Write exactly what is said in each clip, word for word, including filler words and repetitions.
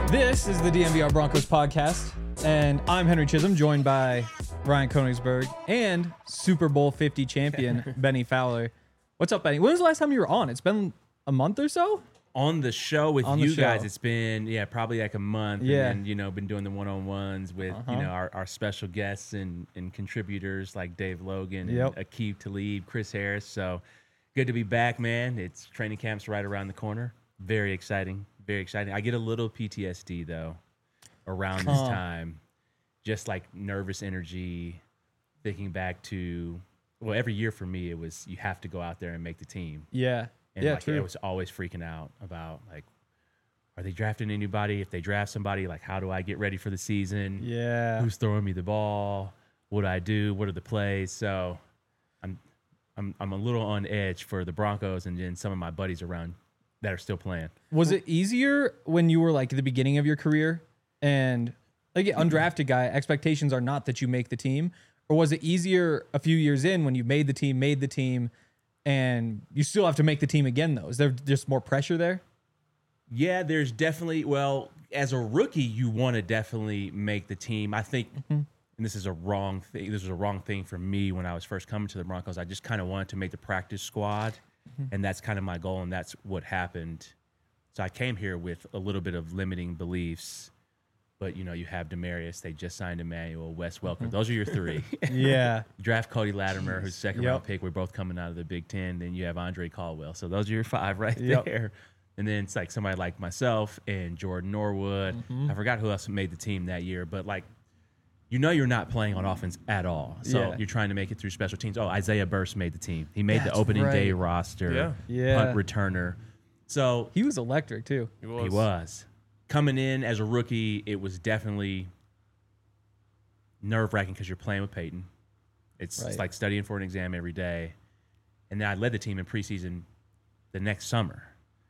This is the D M V R Broncos podcast, and I'm Henry Chisholm, joined by Ryan Koenigsberg and Super Bowl fifty champion Benny Fowler. What's up, Benny? When was the last time you were on? It's been a month or so? On the show with On the you show. guys, it's been, yeah, probably like a month. Yeah. And then, you know, been doing the one-on-ones with, Uh-huh. you know, our, our special guests and, and contributors like Dave Logan Yep. and Aqib Talib, Chris Harris. So good to be back, man. It's training camp's right around the corner. Very exciting. Very exciting. I get a little P T S D, though, around this Huh. time. Just like nervous energy, thinking back to, well, every year for me, it was you have to go out there and make the team. Yeah. And yeah, like, true. I was always freaking out about, like, are they drafting anybody? If they draft somebody, like, how do I get ready for the season? yeah. Who's throwing me the ball? What do I do? What are the plays? So I'm I'm I'm a little on edge for the Broncos and then some of my buddies around that are still playing. Was it easier when you were like at the beginning of your career and like yeah, undrafted guy, expectations are not that you make the team? Or was it easier a few years in when you made the team, made the team, and you still have to make the team again, though? Is there just more pressure there? Yeah, there's definitely, well, as a rookie, you want to definitely make the team. I think, Mm-hmm. and this is a wrong thing, this was a wrong thing for me when I was first coming to the Broncos. I just kind of wanted to make the practice squad, Mm-hmm. and that's kind of my goal, and that's what happened. So I came here with a little bit of limiting beliefs, but, you know, you have Demarius, they just signed Emmanuel, Wes Welker. Mm-hmm. Those are your three. Yeah. You draft Cody Latimer, who's second Yep. round pick. We're both coming out of the Big Ten. Then you have Andre Caldwell. So those are your five right Yep. there. And then it's like somebody like myself and Jordan Norwood. Mm-hmm. I forgot who else made the team that year, but like, you know, you're not playing on offense at all. So Yeah. you're trying to make it through special teams. Oh, Isaiah Burst made the team. He made That's the opening day right. roster. Yeah. Yeah. Punt returner. So He was electric, too. He was. he was. Coming in as a rookie, it was definitely nerve-wracking because you're playing with Peyton. It's, Right. it's like studying for an exam every day. And then I led the team in preseason the next summer.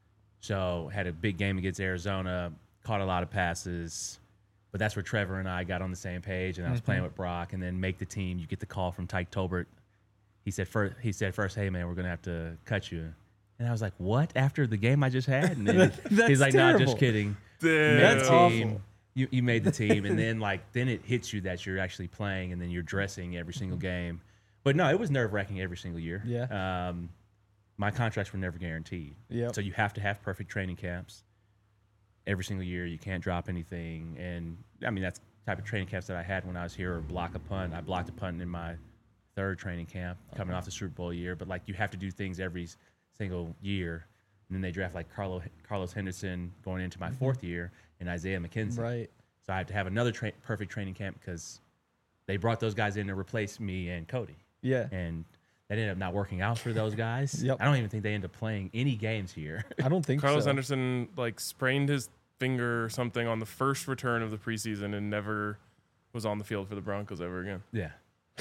So had a big game against Arizona, caught a lot of passes. But that's where Trevor and I got on the same page, and I was Mm-hmm. playing with Brock. And then make the team, you get the call from Tyke Tolbert. He said first, he said first, hey, man, we're going to have to cut you. And I was like, what? After the game I just had? And then That's he's like, nah, terrible. just kidding. Damn. You made That's the awful. team. You, you made the team. And then, like, then it hits you that you're actually playing and then you're dressing every single game. But no, it was nerve-wracking every single year. Yeah. Um, my contracts were never guaranteed. Yep. So you have to have perfect training camps every single year. You can't drop anything. And, I mean, that's the type of training camps that I had when I was here, or block a punt. I blocked a punt in my third training camp coming off the Super Bowl year. But, like, you have to do things every s- single year. And then they draft, like, Carlo, Carlos Henderson going into my fourth year and Isaiah McKenzie. Right. So I had to have another tra- perfect training camp because they brought those guys in to replace me and Cody. Yeah. And that ended up not working out for those guys. Yep. I don't even think they ended up playing any games here. I don't think Carlos so. Henderson like sprained his finger or something on the first return of the preseason and never was on the field for the Broncos ever again. Yeah.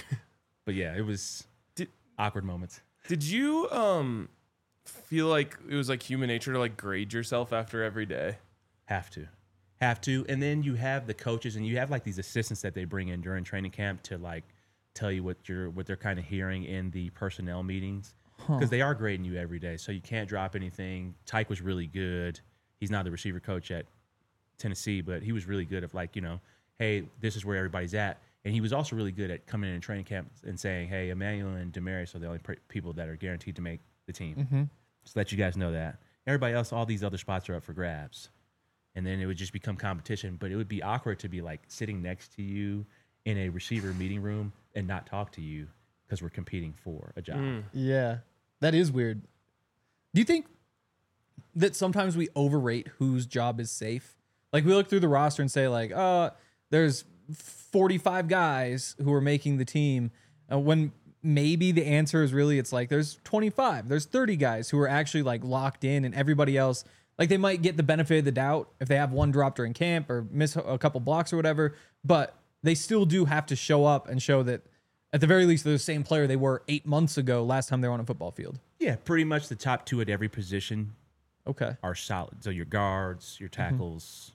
But yeah, it was Did- awkward moments. Did you um feel like it was like human nature to like grade yourself after every day? Have to. Have to. And then you have the coaches and you have like these assistants that they bring in during training camp to like tell you what you're what they're kind of hearing in the personnel meetings. Because they are grading you every day. So you can't drop anything. Tyke was really good. He's not the receiver coach at Tennessee, but he was really good at like, you know, hey, this is where everybody's at. And he was also really good at coming in and training camp and saying, hey, Emmanuel and Demarius are the only pre- people that are guaranteed to make the team. Mm-hmm. Just let you guys know that. Everybody else, all these other spots are up for grabs. And then it would just become competition. But it would be awkward to be like sitting next to you in a receiver meeting room and not talk to you because we're competing for a job. Mm. Yeah, that is weird. Do you think that sometimes we overrate whose job is safe? Like we look through the roster and say like, uh, there's forty-five guys who are making the team, uh, when maybe the answer is really it's like there's twenty-five, there's thirty guys who are actually like locked in, and everybody else, like they might get the benefit of the doubt if they have one drop during camp or miss a couple blocks or whatever, but they still do have to show up and show that at the very least they're the same player they were eight months ago last time they were on a football field. Yeah, pretty much the top two at every position Okay. are solid. So your guards, your tackles.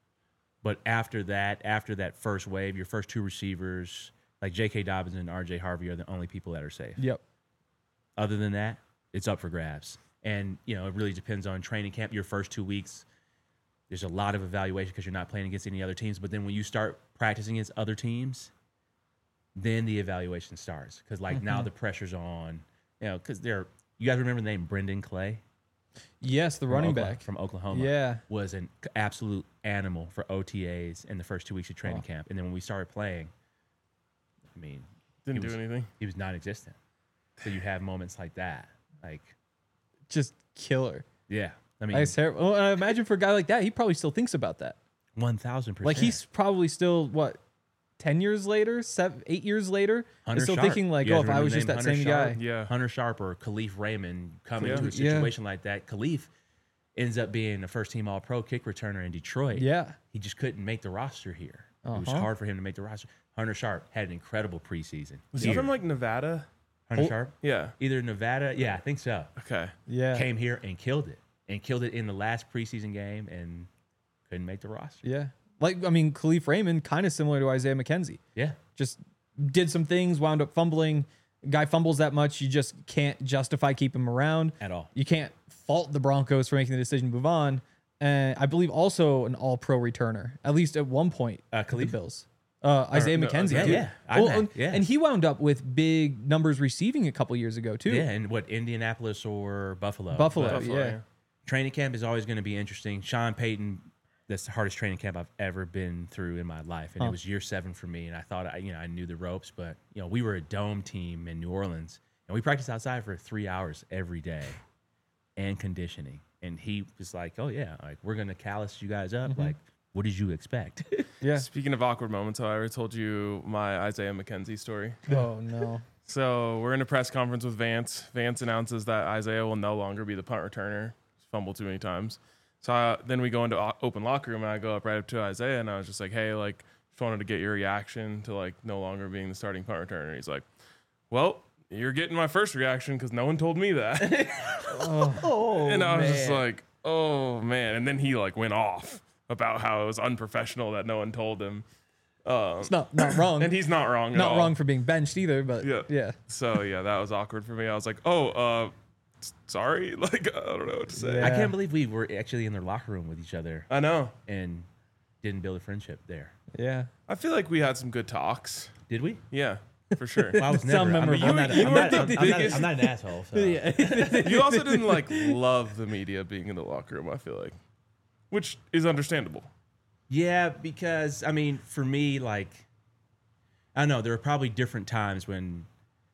But after that, after that first wave, your first two receivers, like J K. Dobbins and R J. Harvey are the only people that are safe. Yep. Other than that, it's up for grabs. And, you know, it really depends on training camp. Your first two weeks, there's a lot of evaluation because you're not playing against any other teams. But then when you start practicing against other teams, then the evaluation starts because like now the pressure's on. You know, because they're you guys remember the name Brendan Clay? Yes, the from running Oklahoma- back. from Oklahoma. Yeah. was an absolute animal for O T As in the first two weeks of training Oh. camp, and then when we started playing, I mean, Didn't he do was, anything. He was non-existent. So you have moments like that, like Just killer. yeah. I mean, That's terrible. Well, I imagine for a guy like that, he probably still thinks about that. one thousand percent. Like he's probably still what, ten years later, seven, eight years later, Hunter is still Sharp. thinking like, You oh, guys if I remember was the just name that Hunter same Sharp? guy. Yeah. Hunter Sharp or Khalif Raymond coming Yeah. into a Yeah. situation like that. Khalif ends up being a first team all pro kick returner in Detroit. Yeah. He just couldn't make the roster here. It was Uh-huh. hard for him to make the roster. Hunter Sharp had an incredible preseason. Was he Here. from like Nevada? Hunter Oh. Sharp? Yeah. Either Nevada, yeah, I think so. Okay. Yeah. Came here and killed it. And killed it in the last preseason game and couldn't make the roster. Yeah. Like, I mean, Khalif Raymond, kind of similar to Isaiah McKenzie. Yeah. Just did some things, wound up fumbling. Guy fumbles that much, you just can't justify keeping him around. At all. You can't fault the Broncos for making the decision to move on. And I believe also an all-pro returner, at least at one point, Uh, with the Khalif? Bills. Uh, Isaiah no, McKenzie, yeah, too. yeah. I Well, know, and, yeah. and he wound up with big numbers receiving a couple years ago, too. Yeah, and what, Indianapolis or Buffalo? Buffalo, But Buffalo, yeah. yeah. training camp is always going to be interesting. Sean Payton, that's the hardest training camp I've ever been through in my life. And Huh. it was year seven for me. And I thought, I, you know, I knew the ropes, but, you know, we were a dome team in New Orleans. And we practiced outside for three hours every day and conditioning. And he was like, oh, yeah, like, we're going to callus you guys up. Like, what did you expect? Yeah. Speaking of awkward moments, I already told you my Isaiah McKenzie story. Oh, no. So we're in a press conference with Vance. Vance announces that Isaiah will no longer be the punt returner. He's fumbled too many times. So I, then we go into o- open locker room, and I go up right up to Isaiah, and I was just like, hey, like, just wanted to get your reaction to, like, no longer being the starting punt returner. He's like, well, you're getting my first reaction because no one told me that. Oh, and I was just man. like, oh, man. And then he, like, went off about how it was unprofessional that no one told him. Um, It's not, not wrong. and he's not wrong at not all. wrong for being benched either, but Yeah. yeah. So yeah, that was awkward for me. I was like, oh, uh, s- sorry. Like, I don't know what to say. Yeah. I can't believe we were actually in their locker room with each other I know. and didn't build a friendship there. Yeah. I feel like we had some good talks. Did we? Yeah, for sure. Well, I was Sound never. I'm, memorable. I'm not, You I'm, were not, the I'm, I'm not, biggest- I'm not an asshole. So. You also didn't like love the media being in the locker room. I feel like, which is understandable. Yeah, because I mean, for me, like, I don't know, there are probably different times when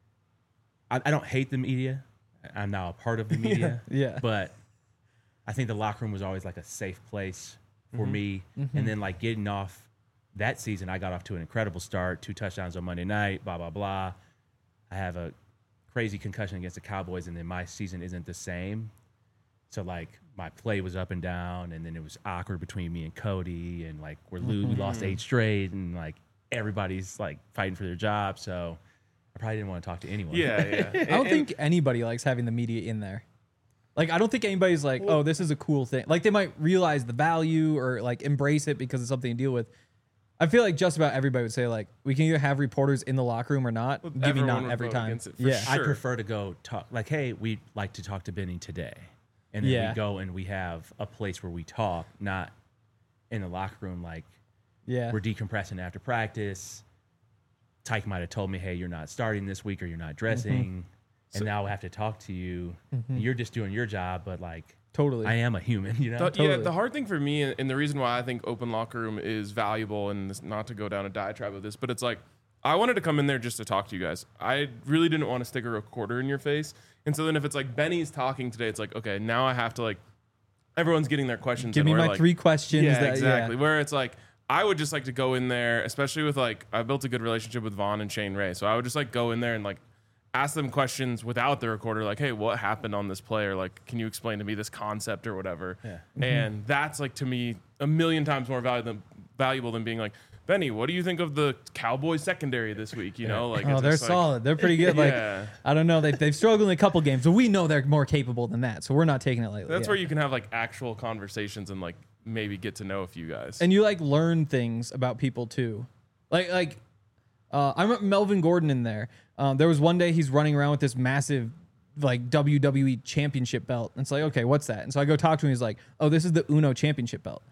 I, I don't hate the media. I'm now a part of the media. Yeah. But I think the locker room was always like a safe place for me. And then like getting off that season, I got off to an incredible start, two touchdowns on Monday night, blah, blah, blah. I have a crazy concussion against the Cowboys, and then my season isn't the same. So like my play was up and down, and then it was awkward between me and Cody, and like we're lo- we lost eight straight, and like everybody's like fighting for their job. So I probably didn't want to talk to anyone. Yeah, yeah. I don't think anybody likes having the media in there. Like, I don't think anybody's like, oh, this is a cool thing. Like, they might realize the value or like embrace it because it's something to deal with. I feel like just about everybody would say, like, we can either have reporters in the locker room or not. Well, Give me everyone not would every vote time. against it for Yeah. sure. I prefer to go talk like, hey, we'd like to talk to Benny today. And then Yeah. we go and we have a place where we talk, not in the locker room like Yeah. we're decompressing after practice. Tyke might have told me, hey, you're not starting this week or you're not dressing. And now I have to talk to you. And you're just doing your job, but like Totally. I am a human, you know? The, Yeah, Totally. the hard thing for me, and the reason why I think open locker room is valuable, and this, not to go down a diatribe of this, but it's like I wanted to come in there just to talk to you guys. I really didn't want to stick a recorder in your face, and so then if it's like Benny's talking today, it's like okay, now I have to like everyone's getting their questions. Give in me where, my like, three questions. Yeah, that, exactly. Yeah. Where it's like I would just like to go in there, especially with like I built a good relationship with Vaughn and Shane Ray, so I would just like go in there and like ask them questions without the recorder, like, hey, what happened on this play? Or like, can you explain to me this concept or whatever? Yeah. And that's like to me a million times more valuable than valuable than being like, Benny, what do you think of the Cowboys secondary this week? You know, like Oh, it's they're just like- solid. They're pretty good. Like, Yeah. I don't know. They, they've struggled in a couple games, but we know they're more capable than that. So we're not taking it lightly. That's yeah. where you can have like actual conversations and like maybe get to know a few guys. And you like learn things about people too. Like, like, uh, I remember Melvin Gordon in there. Um, there was one day he's running around with this massive, like W W E championship belt. And it's like, okay, what's that? And so I go talk to him. He's like, oh, this is the Uno championship belt.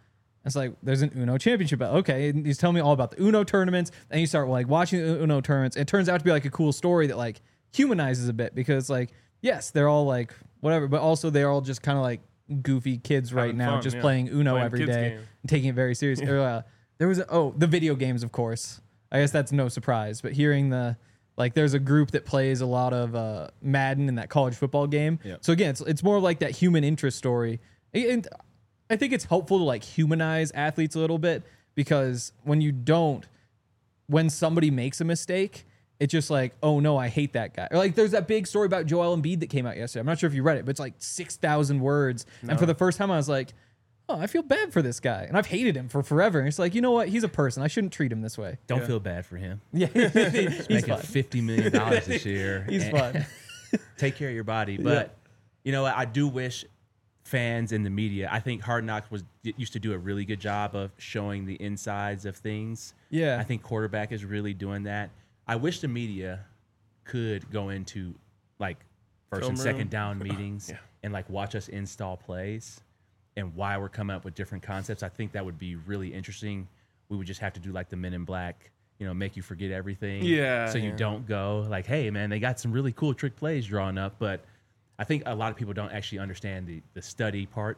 It's like, there's an Uno championship. Okay. And he's telling me all about the Uno tournaments. And you start like watching the Uno tournaments. It turns out to be like a cool story that like humanizes a bit because like, yes, they're all like whatever, but also they're all just kind of like goofy kids right Having now, fun, just yeah. playing Uno Playing every kids day game. and taking it very serious. Or, uh, there was, a, oh, the video games, of course. I guess that's no surprise, but hearing the, like there's a group that plays a lot of uh, Madden in that college football game. Yep. So again, it's, it's more like that human interest story. And I think it's helpful to like humanize athletes a little bit because when you don't, when somebody makes a mistake, it's just like, oh no, I hate that guy. Or like there's that big story about Joel Embiid that came out yesterday. I'm not sure if you read it, but it's like six thousand words. No. And for the first time I was like, oh, I feel bad for this guy. And I've hated him for forever. And it's like, you know what? He's a person. I shouldn't treat him this way. Don't Yeah. feel bad for him. Yeah. He's Making fun. fifty million dollars this year. He's And- fun. Take care of your body. But you know, I do wish fans in the media. I think Hard Knocks was used to do a really good job of showing the insides of things. Yeah. I think quarterback is really doing that. I wish the media could go into like first Film and room. second down meetings Yeah. and like watch us install plays and why we're coming up with different concepts. I think that would be really interesting. We would just have to do like the Men in Black, you know, make you forget everything. Yeah, So you yeah. don't go like, hey man, they got some really cool trick plays drawn up, but I think a lot of people don't actually understand the the study part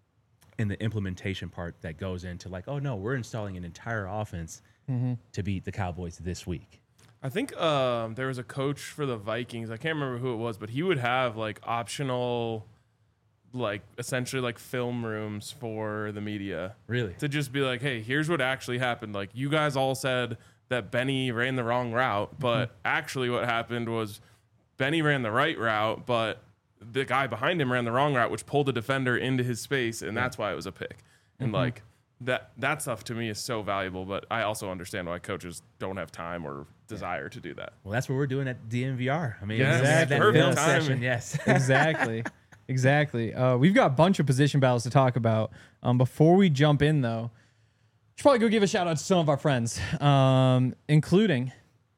and the implementation part that goes into like, oh no, we're installing an entire offense to beat the Cowboys this week. I think um, there was a coach for the Vikings. I can't remember who it was, but he would have like optional, like essentially like film rooms for the media Really? to just be like, hey, here's what actually happened. Like you guys all said that Benny ran the wrong route, but actually what happened was Benny ran the right route, but the guy behind him ran the wrong route, which pulled a defender into his space, and that's why it was a pick. And like that that stuff to me is so valuable, but I also understand why coaches don't have time or desire to do that. Well, that's what we're doing at D M V R. I mean, Yes, exactly. that perfect film timing. session, yes. Exactly. Exactly. Uh, we've got a bunch of position battles to talk about. Um, before we jump in, though, should probably go give a shout out to some of our friends, um, including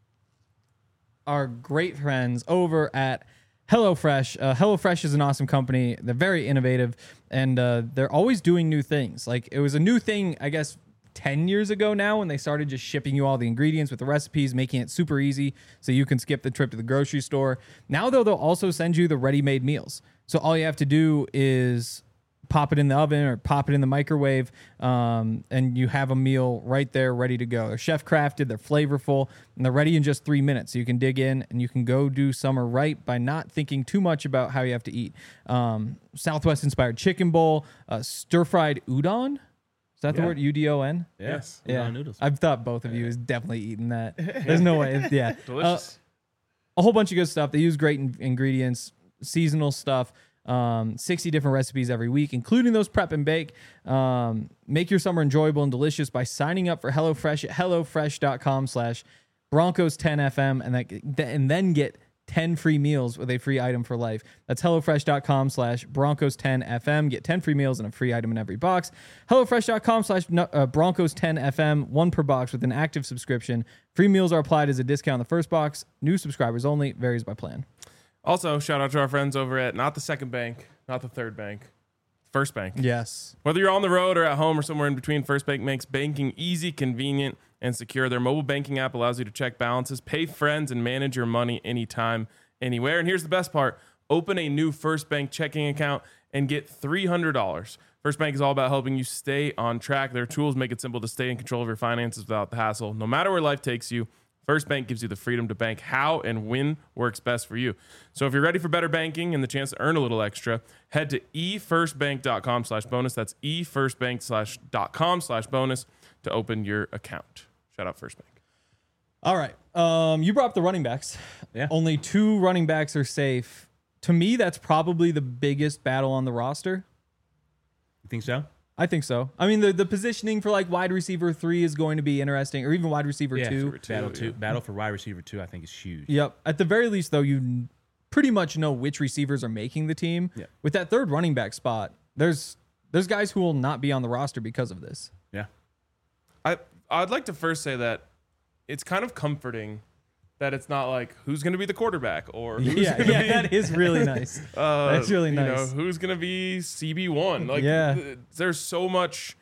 our great friends over at HelloFresh. Uh, HelloFresh is an awesome company. They're very innovative, and uh, they're always doing new things. Like it was a new thing, I guess, ten years ago now when they started just shipping you all the ingredients with the recipes, making it super easy so you can skip the trip to the grocery store. Now, though, they'll also send you the ready-made meals. So all you have to do is pop it in the oven or pop it in the microwave, um, and you have a meal right there ready to go. They're chef crafted, they're flavorful, and they're ready in just three minutes. So you can dig in and you can go do summer right by not thinking too much about how you have to eat. Um, Southwest inspired chicken bowl, uh, stir fried udon. Is that the Yeah. word? U D O N? Yes. Yeah. Noodles. I've thought both of you is definitely eating that. There's no way. Yeah. Uh, Delicious. a whole bunch of good stuff. They use great in- ingredients, seasonal stuff, um, sixty different recipes every week, including those prep and bake. Um, make your summer enjoyable and delicious by signing up for HelloFresh at HelloFresh.com slash Broncos 10FM and, that, and then get ten free meals with a free item for life. That's HelloFresh.com slash Broncos 10FM. Get ten free meals and a free item in every box. HelloFresh.com slash Broncos 10FM, one per box with an active subscription. Free meals are applied as a discount on the first box. New subscribers only. Varies by plan. Also, shout out to our friends over at not the second bank, not the third bank, First Bank. Yes. Whether you're on the road or at home or somewhere in between, First Bank makes banking easy, convenient, and secure. Their mobile banking app allows you to check balances, pay friends, and manage your money anytime, anywhere. And here's the best part. Open a new First Bank checking account and get three hundred dollars. First Bank is all about helping you stay on track. Their tools make it simple to stay in control of your finances without the hassle. No matter where life takes you, First Bank gives you the freedom to bank how and when works best for you. So if you're ready for better banking and the chance to earn a little extra, head to efirstbank.com slash bonus. That's efirstbank slash dot com slash bonus to open your account. Shout out First Bank. All right. Um, you brought up the running backs. Yeah. Only two running backs are safe. To me, that's probably the biggest battle on the roster. You think so? I think so. I mean, the, the positioning for like wide receiver three is going to be interesting, or even wide receiver Yeah, two. two, Battle yeah. two, battle for wide receiver two, I think is huge. Yep. At the very least, though, you n- pretty much know which receivers are making the team. Yeah. With that third running back spot, there's there's guys who will not be on the roster because of this. Yeah. I I'd like to first say that it's kind of comforting that it's not like who's going to be the quarterback or who's Yeah, going to yeah, be that is really nice. uh, That's really you nice. know, who's going to be C B one. Like Yeah. th- there's so much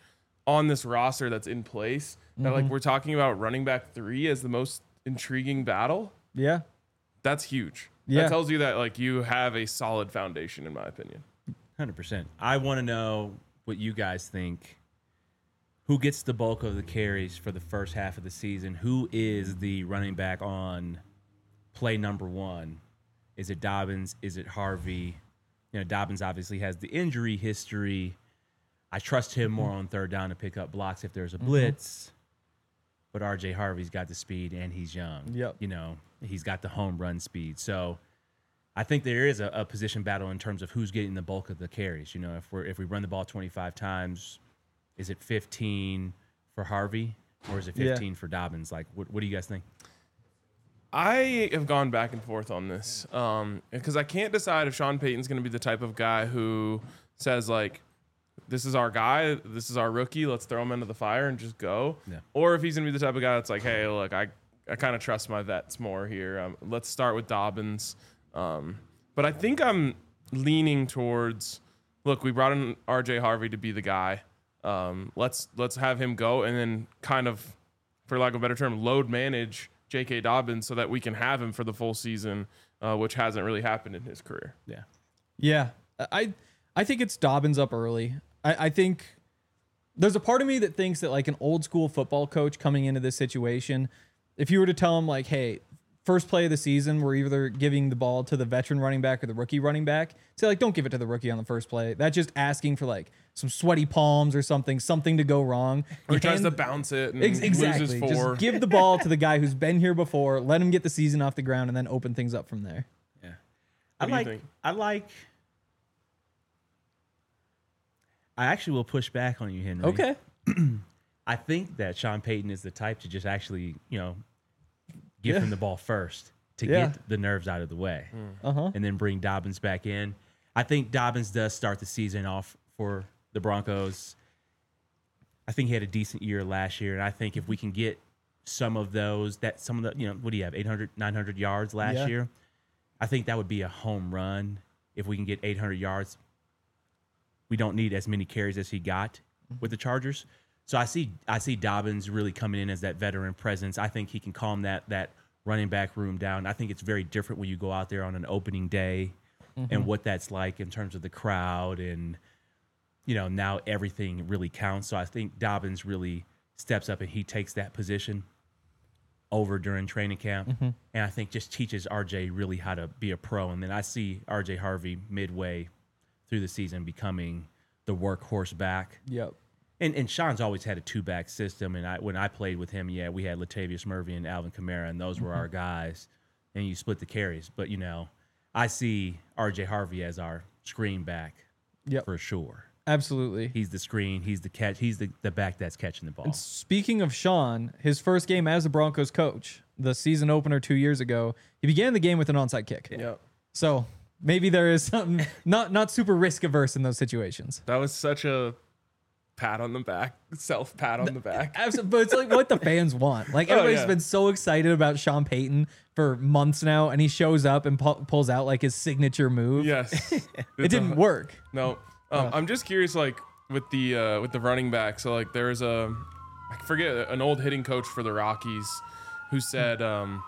on this roster that's in place that Mm-hmm. like we're talking about running back three as the most intriguing battle. Yeah. That's huge. Yeah. That tells you that like you have a solid foundation, in my opinion. one hundred percent. I want to know what you guys think. Who gets the bulk of the carries for the first half of the season? Who is the running back on play number one? Is it Dobbins? Is it Harvey? You know, Dobbins obviously has the injury history. I trust him more on third down to pick up blocks if there's a blitz. But R J Harvey's got the speed and he's young. Yep. You know, he's got the home run speed. So I think there is a, a position battle in terms of who's getting the bulk of the carries. You know, if we're if we run the ball twenty-five times, is it fifteen for Harvey or is it Yeah. fifteen for Dobbins? Like, what, what do you guys think? I have gone back and forth on this um, because I can't decide if Sean Payton's going to be the type of guy who says like, this is our guy, this is our rookie, let's throw him into the fire and just go. Yeah. Or if he's going to be the type of guy that's like, hey, look, I, I kind of trust my vets more here. Um, let's start with Dobbins. Um, but I think I'm leaning towards, look, we brought in R J Harvey to be the guy. Um, let's let's have him go and then kind of, for lack of a better term, load manage J K. Dobbins so that we can have him for the full season, uh, which hasn't really happened in his career. Yeah. Yeah. I I think it's Dobbins up early. I, I think there's a part of me that thinks that like an old school football coach coming into this situation, if you were to tell him like, hey, first play of the season, we're either giving the ball to the veteran running back or the rookie running back, say like, don't give it to the rookie on the first play. That's just asking for like some sweaty palms or something, something to go wrong. Or he You tries hand- to bounce it and Ex- exactly. loses four. Just give the ball to the guy who's been here before, let him get the season off the ground, and then open things up from there. Yeah. What I do you like think? I like I actually will push back on you, Henry. Okay. I think that Sean Payton is the type to just actually, you know, give Yeah. him the ball first to Yeah. get the nerves out of the way Uh huh. and then bring Dobbins back in. I think Dobbins does start the season off for the Broncos. I think he had a decent year last year, and I think if we can get some of those, that some of the, you know, what do you have, eight hundred, nine hundred yards last Yeah. year? I think that would be a home run if we can get eight hundred yards. We don't need as many carries as he got with the Chargers. So I see I see Dobbins really coming in as that veteran presence. I think he can calm that that running back room down. I think it's very different when you go out there on an opening day and what that's like in terms of the crowd and, you know, now everything really counts. So I think Dobbins really steps up and he takes that position over during training camp. And I think just teaches R J really how to be a pro. And then I see R J Harvey midway through the season becoming the workhorse back. Yep. And and Sean's always had a two back system. And I when I played with him, yeah, we had Latavius Murphy and Alvin Kamara, and those were our guys. And you split the carries. But you know, I see R J Harvey as our screen back Yep. for sure. Absolutely. He's the screen, he's the catch, he's the, the back that's catching the ball. And speaking of Sean, his first game as a Broncos coach, the season opener two years ago, he began the game with an onside kick. Yep. So maybe there is something not not super risk averse in those situations. That was such a pat on the back, self pat on the back. Absolutely, but it's like what the fans want. Like Oh, everybody's yeah. been so excited about Sean Payton for months now, and he shows up and pu- pulls out like his signature move. Yes. it It's didn't a- work. No, um, I'm just curious, like with the uh, with the running back. So like there's a, I forget an old hitting coach for the Rockies, who said, um,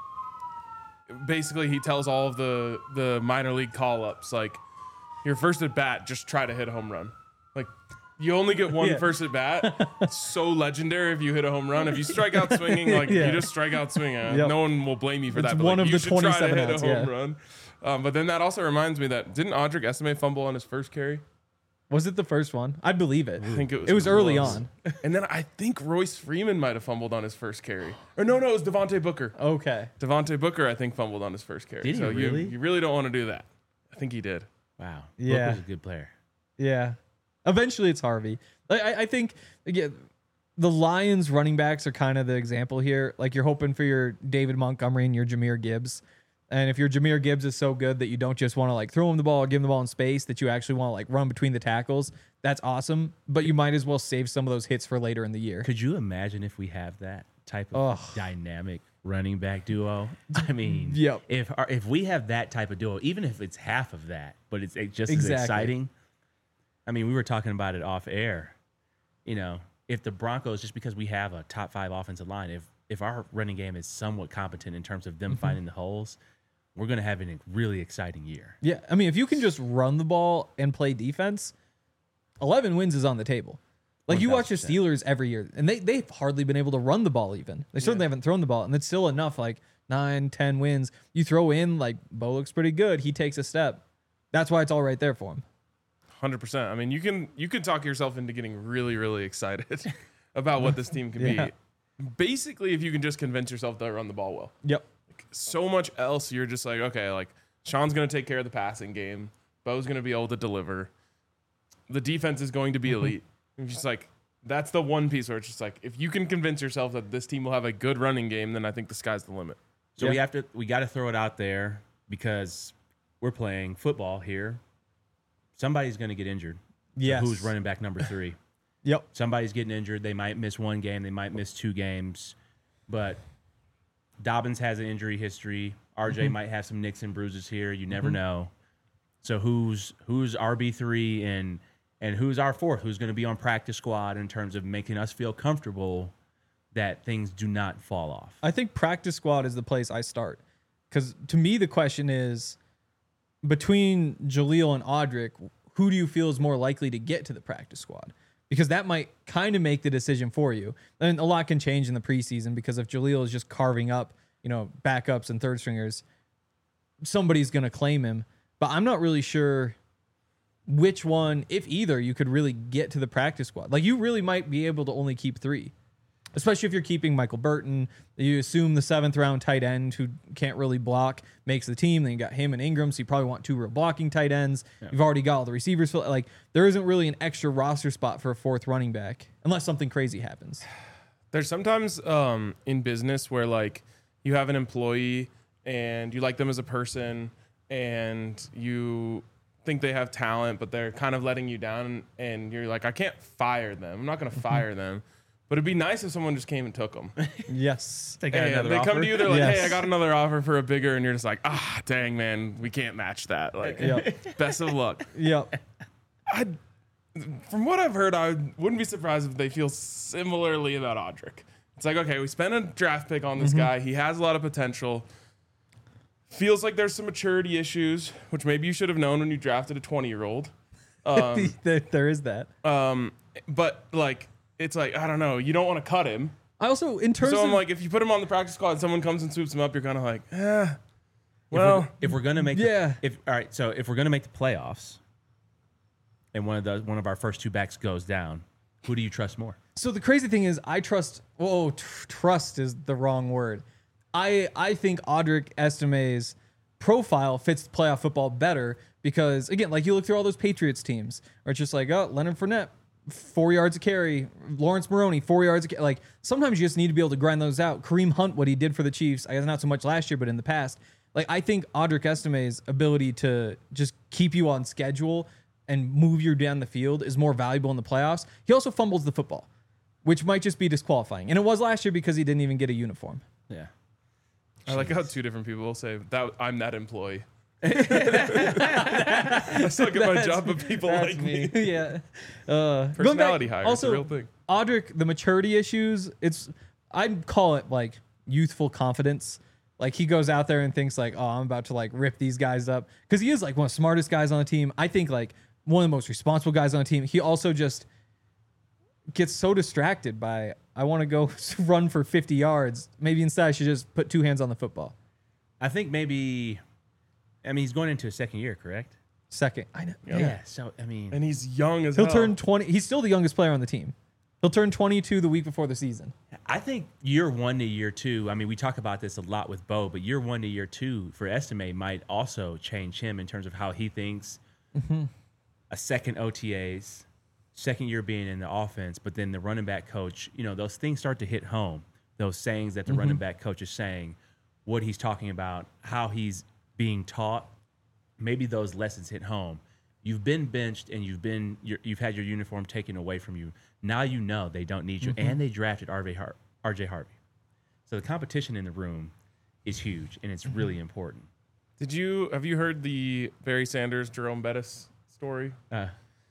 basically he tells all of the the minor league call ups like, your first at bat, just try to hit a home run. Like you only get one Yeah. first at bat. It's so legendary if you hit a home run. If you strike out swinging, like Yeah. you just strike out swinging. Uh, Yep. No one will blame you for It's that. But, one like, of you the should try to twenty-seven hit outs, a home yeah. run. Um, but then that also reminds me that didn't Audric Estimé fumble on his first carry? Was it the first one? I believe it. I think it was. It was early close. on. And then I think Royce Freeman might have fumbled on his first carry. Or no, no, it was Devontae Booker. Okay. Devontae Booker, I think, fumbled on his first carry. Did he so really? You, you really don't want to do that. I think he did. Wow. Yeah. Book was a good player. Yeah. Eventually it's Harvey. Like, I, I think again, the Lions running backs are kind of the example here. Like you're hoping for your David Montgomery and your Jahmyr Gibbs. And if your Jahmyr Gibbs is so good that you don't just want to like throw him the ball, give him the ball in space, that you actually want to like run between the tackles, that's awesome. But you might as well save some of those hits for later in the year. Could you imagine if we have that type of Ugh. dynamic running back duo? I mean, Yep. if our, if we have that type of duo, even if it's half of that, but it's it just Exactly. as exciting. I mean, we were talking about it off air. You know, if the Broncos, just because we have a top five offensive line, if if our running game is somewhat competent in terms of them mm-hmm. finding the holes, we're going to have a really exciting year. Yeah, I mean, if you can just run the ball and play defense, eleven wins is on the table. Like, you watch the Steelers every year, and they, they've hardly been able to run the ball even. They certainly yeah. haven't thrown the ball, and it's still enough, like, nine, ten wins. You throw in, like, Bo looks pretty good. He takes a step. That's why it's all right there for him. one hundred percent. I mean, you can you can talk yourself into getting really, really excited about what this team can yeah. be. Basically, if you can just convince yourself to run the ball well. Yep. Like, so much else, you're just like, okay, like, Sean's going to take care of the passing game. Bo's going to be able to deliver. The defense is going to be elite. It's just like, that's the one piece where it's just like, if you can convince yourself that this team will have a good running game, then I think the sky's the limit. So yeah. we have to, we got to throw it out there because we're playing football here. Somebody's going to get injured. Yes. So who's running back number three? Yep. Somebody's getting injured. They might miss one game. They might miss two games. But Dobbins has an injury history. R J mm-hmm. might have some nicks and bruises here. You never mm-hmm. know. So who's who's R B three and and who's our fourth? Who's going to be on practice squad in terms of making us feel comfortable that things do not fall off? I think practice squad is the place I start. Because to me, the question is, between Jaleel and Audric, who do you feel is more likely to get to the practice squad? Because that might kind of make the decision for you. And a lot can change in the preseason because if Jaleel is just carving up, you know, backups and third stringers, somebody's going to claim him. But I'm not really sure which one, if either, you could really get to the practice squad. Like, you really might be able to only keep three, especially if you're keeping Michael Burton. You assume the seventh round tight end who can't really block makes the team. Then you got him and Ingram, so you probably want two real blocking tight ends. Yeah. You've already got all the receivers. Like, there isn't really an extra roster spot for a fourth running back unless something crazy happens. There's sometimes um, in business where, like, you have an employee and you like them as a person and you think they have talent, but they're kind of letting you down, and you're like, I can't fire them. I'm not going to fire them. But it'd be nice if someone just came and took them. Yes. They, got and they come to you, they're like, yes. hey, I got another offer for a bigger, and you're just like, ah, dang, man, we can't match that. Like, yep. best of luck. Yep. I, from what I've heard, I wouldn't be surprised if they feel similarly about Audric. It's like, okay, we spent a draft pick on this mm-hmm. guy. He has a lot of potential. Feels like there's some maturity issues, which maybe you should have known when you drafted a twenty-year-old. Um, there, there is that. Um, but, like, it's like, I don't know. You don't want to cut him. I also, in terms so of... I'm like, if you put him on the practice squad and someone comes and swoops him up, you're kind of like, eh, well... If we're, if we're going to make... Yeah. The, if, all right, so if we're going to make the playoffs and one of the one of our first two backs goes down, who do you trust more? So the crazy thing is, I trust... Whoa, tr- trust is the wrong word. I I think Audric Estime's profile fits playoff football better because, again, like you look through all those Patriots teams, where it's just like, oh, Leonard Fournette, four yards a carry. Lawrence Maroney, four yards a carry. Like, sometimes you just need to be able to grind those out. Kareem Hunt, what he did for the Chiefs, I guess not so much last year, but in the past. Like, I think Audric Estime's ability to just keep you on schedule and move you down the field is more valuable in the playoffs. He also fumbles the football, which might just be disqualifying. And it was last year because he didn't even get a uniform. Yeah. I Jeez. like how two different people will say that I'm that employee. I still get my job, but people like me. me. Yeah. Uh, Personality hire is a real thing. Audric, the maturity issues, it's I'd call it like youthful confidence. Like, he goes out there and thinks like, oh, I'm about to like rip these guys up. Because he is like one of the smartest guys on the team. I think like one of the most responsible guys on the team. He also just gets so distracted by, I want to go run for fifty yards. Maybe instead I should just put two hands on the football. I think maybe, I mean, he's going into his second year, correct? Second. I know. Yeah. yeah. So, I mean. And he's young as He'll hell. turn twenty. He's still the youngest player on the team. He'll turn twenty-two the week before the season. I think year one to year two, I mean, we talk about this a lot with Bo, but year one to year two for Estime might also change him in terms of how he thinks. Mm-hmm. A second O T As. Second year being in the offense, but then the running back coach, you know, those things start to hit home. Those sayings that the mm-hmm. running back coach is saying, what he's talking about, how he's being taught, maybe those lessons hit home. You've been benched and you've been you've had your uniform taken away from you. Now you know they don't need you, mm-hmm. and they drafted R J Har- R J Harvey. So the competition in the room is huge, and it's mm-hmm. really important. Did you have you heard the Barry Sanders, Jerome Bettis story? Uh,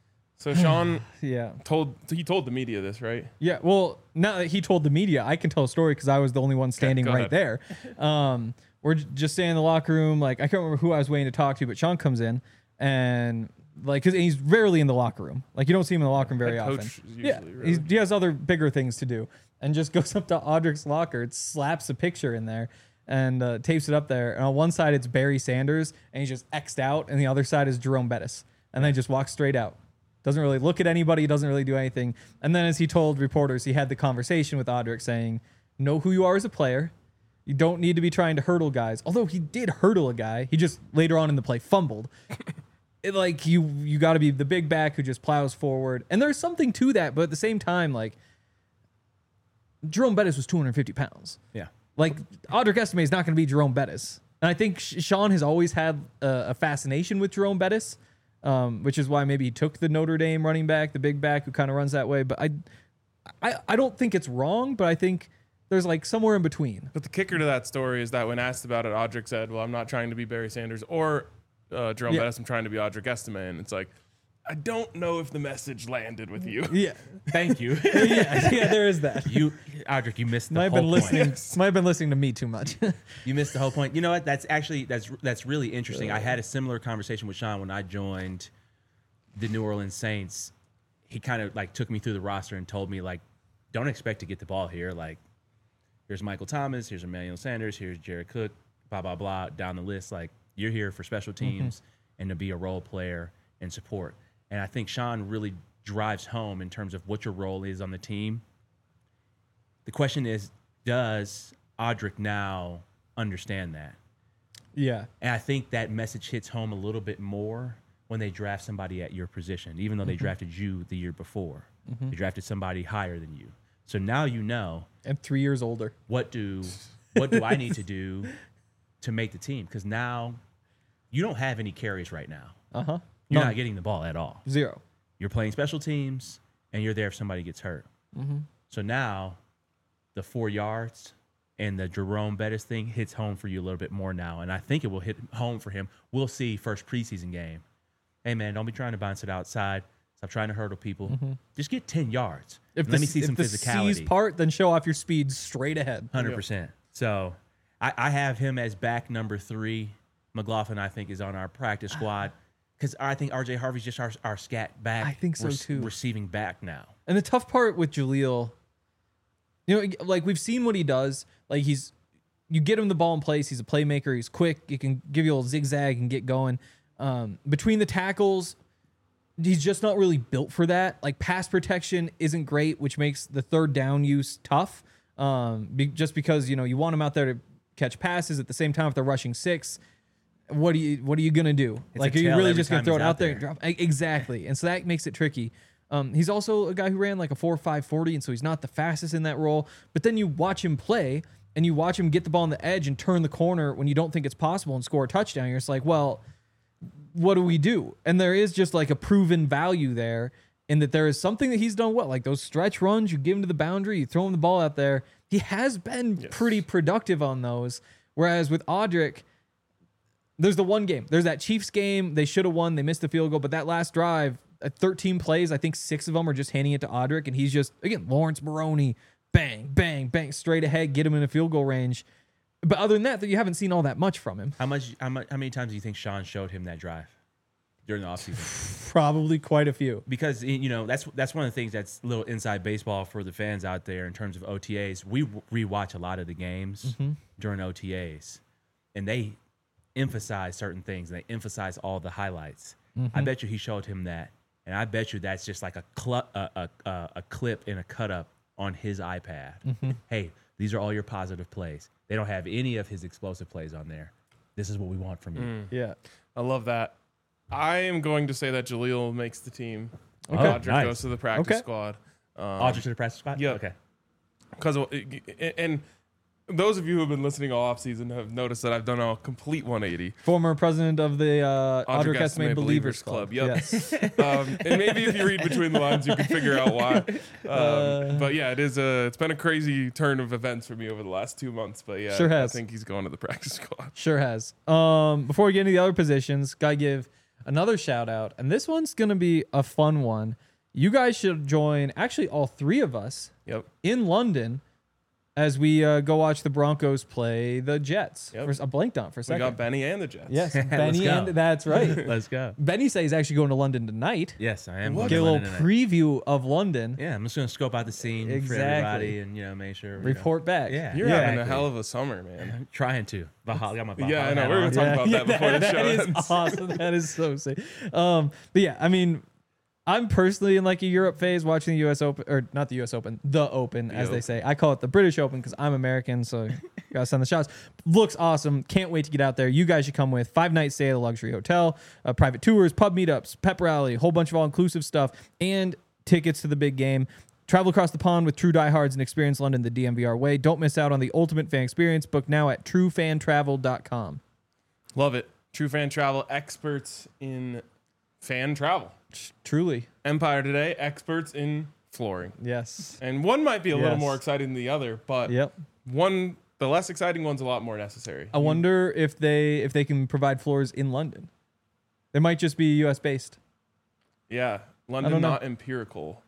So Sean Yeah. told he told the media this, right? Yeah. Well, now that he told the media, I can tell a story because I was the only one standing go right ahead. there. Um, we're j- just standing in the locker room. Like, I can't remember who I was waiting to talk to, but Sean comes in and like, cause he's rarely in the locker room. Like, you don't see him in the locker room very Head often. coach is Yeah. usually, He's, really. he has other bigger things to do and just goes up to Audrick's locker, slaps a picture in there and uh, tapes it up there. And on one side, it's Barry Sanders and he's just X'd out. And the other side is Jerome Bettis. And then he just walks straight out. Doesn't really look at anybody, doesn't really do anything. And then as he told reporters, he had the conversation with Audrick saying, know who you are as a player. You don't need to be trying to hurdle guys. Although he did hurdle a guy. He just later on in the play fumbled. It, like you you got to be the big back who just plows forward. And there's something to that, but at the same time, like Jerome Bettis was two hundred fifty pounds. Yeah. Like Audrick Estime is not going to be Jerome Bettis. And I think Sh- Sean has always had a, a fascination with Jerome Bettis. Um, which is why maybe he took the Notre Dame running back, the big back who kind of runs that way. But I, I, I don't think it's wrong, but I think there's like somewhere in between. But the kicker to that story is that when asked about it, Audrick said, "Well, I'm not trying to be Barry Sanders or uh, Jerome Yeah. Bettis. I'm trying to be Audrick Estime." And it's like, I don't know if the message landed with you. Yeah, Thank you. yeah, yeah. There is that. you, Audrick, you missed the Might have whole been point. listening. Might have been listening to me too much. You missed the whole point. You know what? That's actually that's that's really interesting. I had a similar conversation with Sean when I joined the New Orleans Saints. He kind of like took me through the roster and told me like, don't expect to get the ball here. Like, here's Michael Thomas, here's Emmanuel Sanders, here's Jared Cook, blah blah blah, down the list. Like, you're here for special teams and to be a role player and support. And I think Sean really drives home in terms of what your role is on the team. The question is, does Audrick now understand that? Yeah, And I think that message hits home a little bit more when they draft somebody at your position, even though they drafted you the year before. They drafted somebody higher than you. So now you know, and three years older. what do what do I need to do to make the team? Because now you don't have any carries right now. Uh huh. You're None. not getting the ball at all. Zero. You're playing special teams, and you're there if somebody gets hurt. So now the four yards and the Jerome Bettis thing hits home for you a little bit more now, and I think it will hit home for him. We'll see first preseason game. Hey, man, don't be trying to bounce it outside. Stop trying to hurdle people. Just get ten yards. If Let the, me see if some the physicality. C's part, then show off your speed straight ahead. one hundred percent. So I, I have him as back number three. McLaughlin, I think, is on our practice squad because I think R J Harvey's just our, our scat back. I think so, rec- too. Receiving back now. And the tough part with Jaleel, you know, like we've seen what he does. Like he's, you get him the ball in place. He's a playmaker. He's quick. He can give you a little zigzag and get going. Um, between the tackles, he's just not really built for that. Like pass protection isn't great, which makes the third down use tough. Um, be, just because you know you want him out there to catch passes at the same time if they're rushing six. What are you What are you gonna do? It's like, a are you tell really every just gonna time throw he's it out out there? there. And drop? E- Exactly, and so that makes it tricky. Um, he's also a guy who ran like a four five forty, and so he's not the fastest in that role. But then you watch him play, and you watch him get the ball on the edge and turn the corner when you don't think it's possible and score a touchdown. You're just like, well, what do we do? And there is just like a proven value there in that there is something that he's done well. Like those stretch runs, you give him to the boundary, you throw him the ball out there. He has been Yes. pretty productive on those. Whereas with Audrick, there's the one game. There's that Chiefs game. They should have won. They missed the field goal. But that last drive, at thirteen plays, I think six of them are just handing it to Audrick. And he's just, again, Lawrence Maroney, bang, bang, bang, straight ahead, get him in a field goal range. But other than that, you haven't seen all that much from him. How much? How much? How many times do you think Sean showed him that drive during the offseason? Probably quite a few. Because you know that's that's one of the things that's a little inside baseball for the fans out there in terms of O T As. We rewatch a lot of the games during O T As, and they emphasize certain things and they emphasize all the highlights. I bet you he showed him that, and I bet you that's just like a cl- a, a, a, a clip and a cut up on his iPad. Hey, these are all your positive plays. They don't have any of his explosive plays on there. This is what we want from you. Yeah. I love that. I am going to say that Jaleel makes the team. Okay. Audrick Nice. goes to the practice Okay. squad. Um, Audrey to the practice spot? yeah. Okay. Because and those of you who have been listening all offseason have noticed that I've done a complete one eighty. Former president of the uh, Audrick Audrick Estime Estime Believers Believers Club. Club, yep. Yes. Um, and maybe if you read between the lines, you can figure out why. Um, Uh, but yeah, it is a. It's been a crazy turn of events for me over the last two months. But yeah, Sure I has. think he's going to the practice squad. Sure has. Um, before we get into the other positions, gotta give another shout out, and this one's gonna be a fun one. You guys should join. Actually, all three of us Yep. in London as we uh, go watch the Broncos play the Jets. Yep. For, I blanked on it for a We second. got Benny and the Jets. Yes, Let's Benny, go. and that's right. Let's go. Benny says he's actually going to London tonight. Yes, I am. What? going Get to a little London tonight. preview of London. Yeah, I'm just gonna scope out the scene for Exactly. everybody, and you know, make sure. you know, Report back. Yeah, You're Yeah. having a exactly. hell of a summer, man. I'm trying to. Valhalla, got my Valhalla Yeah, I know. hat We were on. talking about that before the that show is ends. awesome. That is so sick. Um, but yeah, I mean, I'm personally in like a Europe phase watching the U S Open, or not the U S Open, the Open, as they Open. say. I call it the British Open because I'm American, so gotta send the shots. Looks awesome. Can't wait to get out there. You guys should come with five night stay at a luxury hotel, uh, private tours, pub meetups, pep rally, a whole bunch of all inclusive stuff, and tickets to the big game. Travel across the pond with true diehards and experience London the D M V R way. Don't miss out on the ultimate fan experience. Book now at true fan travel dot com. Love it. True Fan Travel, experts in fan travel. Truly. Empire Today, experts in flooring. Yes. And one might be a little Yes. more exciting than the other, but Yep. one, the less exciting one's a lot more necessary. I wonder if they if they can provide floors in London. They might just be U S based. Yeah, I London don't know. not empirical.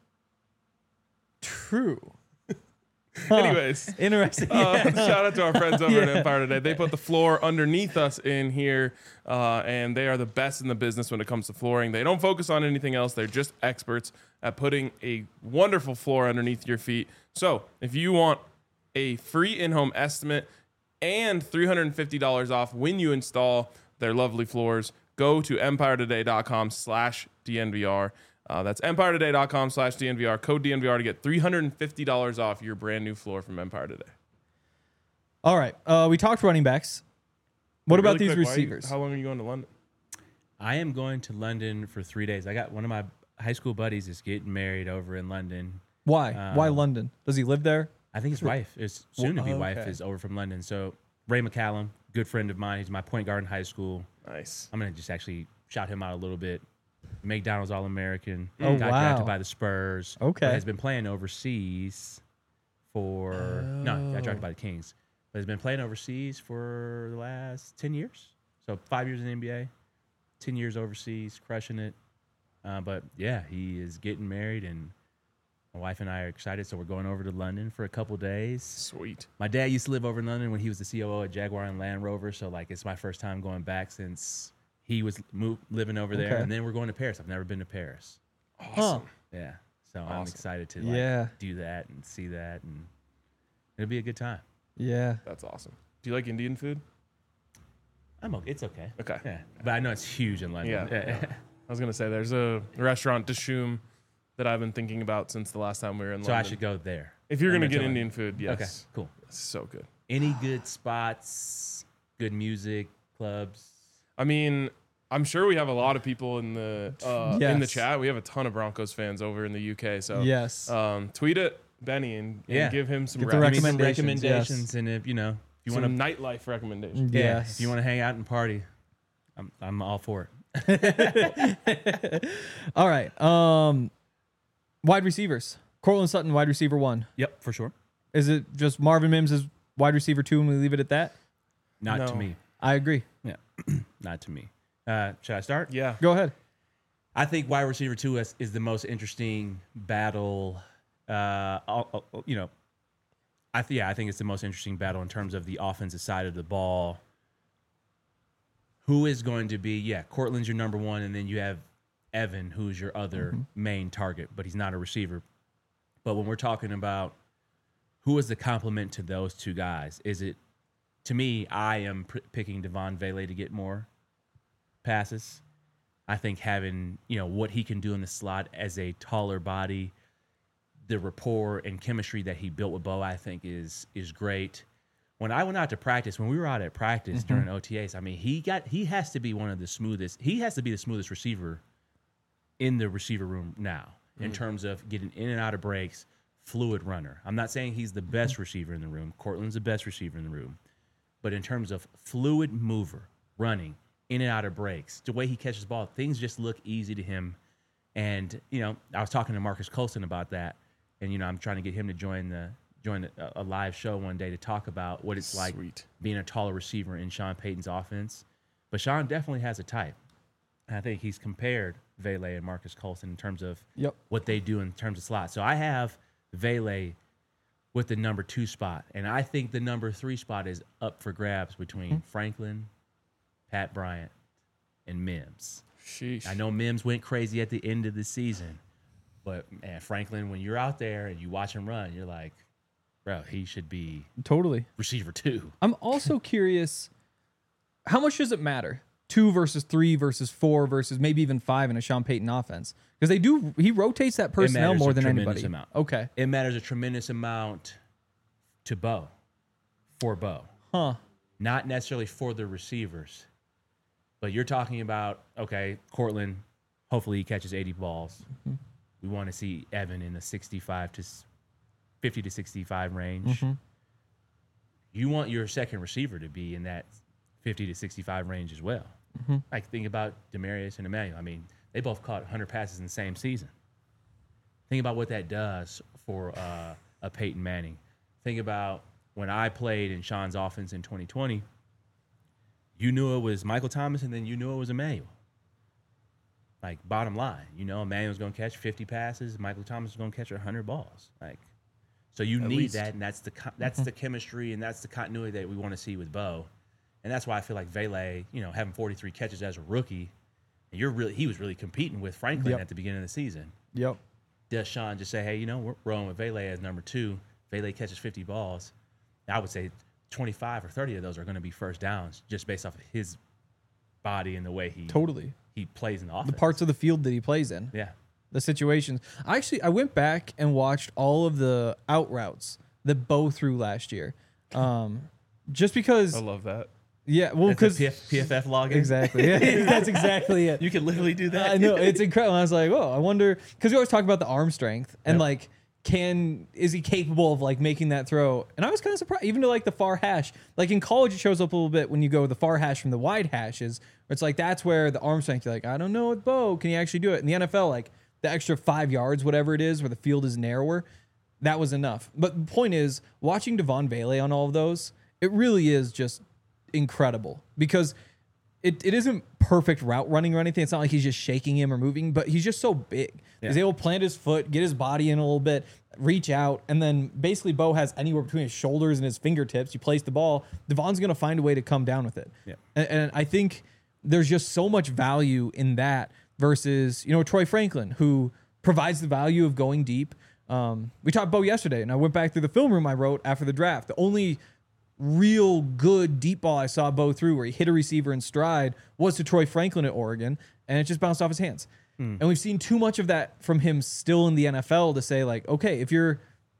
True. Anyways, Interesting. uh, shout out to our friends over at Yeah. Empire Today. They put the floor underneath us in here, uh, and they are the best in the business when it comes to flooring. They don't focus on anything else. They're just experts at putting a wonderful floor underneath your feet. So if you want a free in-home estimate and three hundred fifty dollars off when you install their lovely floors, go to empire today dot com slash D N V R. Uh, that's empire today dot com slash D N V R. Code D N V R to get three hundred fifty dollars off your brand new floor from Empire Today. All right. Uh, we talked running backs. What about Really these quick, why are you- receivers? how long are you going to London? I am going to London for three days. I got one of my high school buddies is getting married over in London. Why? Why Um, London? Does he live there? I think his wife, his soon to be Oh, wife, okay. is over from London. So Ray McCallum, good friend of mine. He's my point guard in high school. Nice. I'm gonna just actually shout him out a little bit. McDonald's All American. Oh, got wow. drafted by the Spurs. but Okay. has been playing overseas for no, got drafted by the Kings. But has been playing overseas for the last ten years. So five years in the N B A, ten years overseas, crushing it. Uh, but yeah, he is getting married, and my wife and I are excited. So we're going over to London for a couple days. Sweet. My dad used to live over in London when he was the C O O at Jaguar and Land Rover. So like it's my first time going back since he was move, living over there. Okay. And then we're going to Paris. I've never been to Paris. Huh. Yeah. So I'm Awesome. excited to like Yeah. do that and see that, and it'll be a good time. Yeah. That's awesome. Do you like Indian food? I'm okay. It's okay. Okay. Yeah. But I know it's huge in London. Yeah. I was going to say, there's a restaurant, Dishoom, that I've been thinking about since the last time we were in so London. I should go there. If you're I'm going to get tell you. Indian food, yes. Okay. Cool. It's so good. Any good spots? Good music clubs? I mean, I'm sure we have a lot of people in the uh, in the Yes. chat. We have a ton of Broncos fans over in the U K. So Yes. um, tweet at Benny and, and Yeah. give him some, Get the rec- Give me some Recommendations, recommendations, yes. and if you know, if you some want to, nightlife recommendations. yeah, Yes. if you want to hang out and party, I'm I'm all for it. All right. Um, wide receivers. Cortland Sutton, wide receiver one. Yep, for sure. Is it just Marvin Mims is wide receiver two, and we leave it at that? Not to No. me. I agree. Yeah, not to me. Uh, should I start? Yeah. Go ahead. I think wide receiver two is, is the most interesting battle. Uh, I'll- I'll- you know, I th- yeah, I think it's the most interesting battle in terms of the offensive side of the ball. Who is going to be? Yeah, Cortland's your number one, and then you have Evan, who's your other main target, but he's not a receiver. But when we're talking about who is the complement to those two guys, is it? To me, I am pr- picking Devon Vele to get more passes. I think having, you know, what he can do in the slot as a taller body, the rapport and chemistry that he built with Bo, I think is is great. When I went out to practice, when we were out at practice during O T As, I mean, he got he has to be one of the smoothest. He has to be the smoothest receiver in the receiver room now in terms of getting in and out of breaks, fluid runner. I'm not saying he's the best receiver in the room. Cortland's the best receiver in the room. But in terms of fluid mover, running, in and out of breaks, the way he catches the ball, things just look easy to him. And, you know, I was talking to Marcus Colston about that. And, you know, I'm trying to get him to join the join a, a live show one day to talk about what it's like Sweet. being a taller receiver in Sean Payton's offense. But Sean definitely has a type. I think he's compared Vele and Marcus Colston in terms of Yep. what they do in terms of slots. So I have Vele with the number two spot, and I think the number three spot is up for grabs between Mm-hmm. Franklin, Pat Bryant, and Mims. Sheesh. I know Mims went crazy at the end of the season, but man, Franklin, when you're out there and you watch him run, you're like, bro, he should be Totally. receiver two. I'm also curious, how much does it matter? Two versus three versus four versus maybe even five in a Sean Payton offense? Because they do, he rotates that personnel matters more a than tremendous anybody. amount. Okay. It matters a tremendous amount to Bo, for Bo. Huh. Not necessarily for the receivers, but you're talking about, okay, Cortland, hopefully he catches eighty balls. Mm-hmm. We want to see Evan in the sixty-five to fifty to sixty-five range. Mm-hmm. You want your second receiver to be in that fifty to sixty-five range as well. Mm-hmm. Like, think about Demarius and Emmanuel. I mean, they both caught one hundred passes in the same season. Think about what that does for uh, a Peyton Manning. Think about when I played in Sean's offense in twenty twenty, you knew it was Michael Thomas, and then you knew it was Emmanuel. Like, bottom line, you know, Emmanuel's going to catch fifty passes, Michael Thomas is going to catch one hundred balls. Like, so you At need least. that, and that's the co- that's the chemistry, and that's the continuity that we want to see with Bo. And that's why I feel like Vele, you know, having forty-three catches as a rookie, and you're really he was really competing with Franklin Yep. at the beginning of the season. Yep. Does Sean just say, hey, you know, we're rolling with Vele as number two. Vele catches fifty balls. I would say twenty-five or thirty of those are going to be first downs just based off of his body and the way he Totally. he plays in the The offense. parts of the field that he plays in. Yeah. The situations. I actually I went back and watched all of the out routes that Bo threw last year. Um, just because I love that. yeah, well That's a because P F, P F F login. exactly. Yeah, that's exactly it. You can literally do that. I know it's incredible. I was like, oh, I wonder because we always talk about the arm strength and Yep. like, can is he capable of like making that throw? And I was kind of surprised, even to like the far hash. Like in college, it shows up a little bit when you go the far hash from the wide hashes. Where it's like that's where the arm strength. You're like, I don't know with Bo, can he actually do it? In the N F L, like the extra five yards, whatever it is, where the field is narrower, that was enough. But the point is, watching Devon Vele on all of those, it really is just incredible because it, it isn't perfect route running or anything. It's not like he's just shaking him or moving, but he's just so big. Yeah. He's able to plant his foot, get his body in a little bit, reach out, and then basically Bo has anywhere between his shoulders and his fingertips. You place the ball, Devon's going to find a way to come down with it. Yeah. And, and I think there's just so much value in that versus, you know, Troy Franklin, who provides the value of going deep. Um, we talked Bo yesterday, and I went back through the film room I wrote after the draft. The only real good deep ball I saw Bo through where he hit a receiver in stride was to Troy Franklin at Oregon, and it just bounced off his hands. Hmm. And we've seen too much of that from him still in the N F L to say like, okay, if you're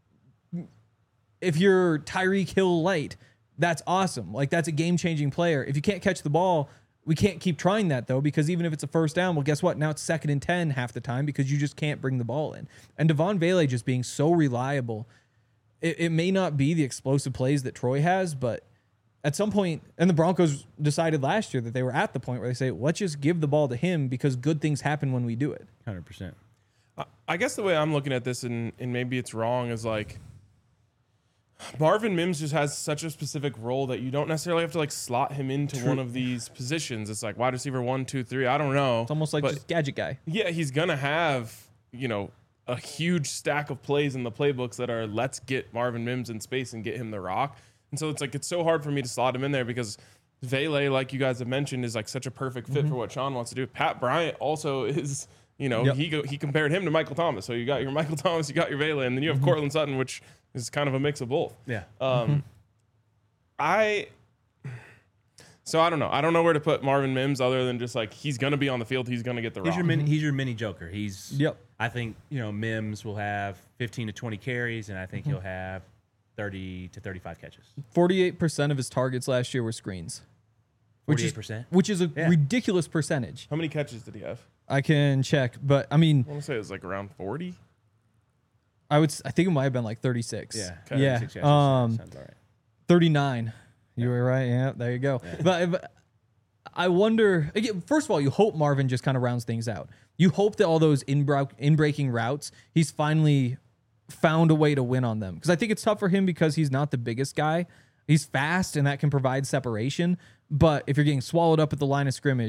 if you're Tyreek Hill light, that's awesome. Like that's a game-changing player. If you can't catch the ball, we can't keep trying that though, because even if it's a first down, well, guess what? Now it's second and ten half the time because you just can't bring the ball in. And Devon Vele just being so reliable. It, it may not be the explosive plays that Troy has, but at some point, and the Broncos decided last year that they were at the point where they say, let's just give the ball to him because good things happen when we do it. one hundred percent. I- I guess the way I'm looking at this, and, and maybe it's wrong, is like Marvin Mims just has such a specific role that you don't necessarily have to like slot him into True. one of these positions. It's like wide receiver one, two, three. I don't know. It's almost like But just gadget guy. yeah, he's gonna have, you know, a huge stack of plays in the playbooks that are let's get Marvin Mims in space and get him the rock. And so it's like it's so hard for me to slot him in there because Vele, like you guys have mentioned, is like such a perfect fit for what Sean wants to do. Pat Bryant also is, you know, Yep. he go, he compared him to Michael Thomas. So you got your Michael Thomas, you got your Vele, and then you have Cortland Sutton, which is kind of a mix of both. Yeah. Um, I so I don't know. I don't know where to put Marvin Mims other than just like he's gonna be on the field. He's gonna get the He's rock. your mini. He's your mini Joker. He's. Yep. I think you know Mims will have fifteen to twenty carries, and I think he'll have thirty to thirty-five catches. forty-eight percent of his targets last year were screens. Which is, Forty-eight percent. which is a Yeah. ridiculous percentage. How many catches did he have? I can check, but I mean, I want to say it was like around forty. I would. s- I think it might have been like thirty-six. Yeah. Okay. Yeah. Six catches, Um, sounds all right. thirty-nine. You were right. Yeah. There you go. But, but I wonder. Again, first of all, you hope Marvin just kind of rounds things out. You hope that all those in in breaking routes, he's finally found a way to win on them. Because I think it's tough for him because he's not the biggest guy. He's fast and that can provide separation. But if you're getting swallowed up at the line of scrimmage,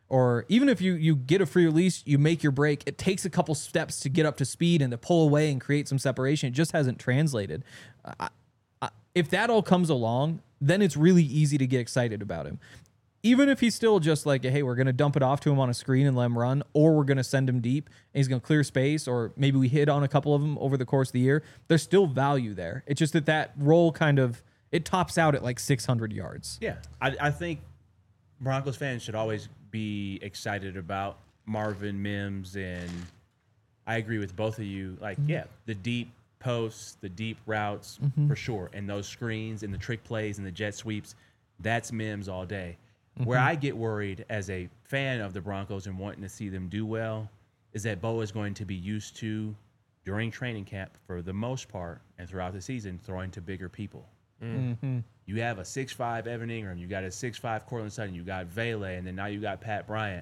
or even if you you get a free release, you make your break, it takes a couple steps to get up to speed and to pull away and create some separation. It just hasn't translated. I, I, if that all comes along, then it's really easy to get excited about him. Even if he's still just like, hey, we're going to dump it off to him on a screen and let him run, or we're going to send him deep and he's going to clear space, or maybe we hit on a couple of them over the course of the year, there's still value there. It's just that that role kind of, it tops out at like six hundred yards. Yeah, I, I think Broncos fans should always be excited about Marvin Mims, and I agree with both of you. Like, mm-hmm. yeah, the deep posts, the deep routes, mm-hmm. for sure, and those screens and the trick plays and the jet sweeps, that's Mims all day. Mm-hmm. Where I get worried as a fan of the Broncos and wanting to see them do well is that Bo is going to be used to, during training camp, for the most part, and throughout the season, throwing to bigger people. Mm-hmm. You have a six five Evan Ingram, you got a six five Cortland Sutton, you got Vele, and then now you got Pat Bryant.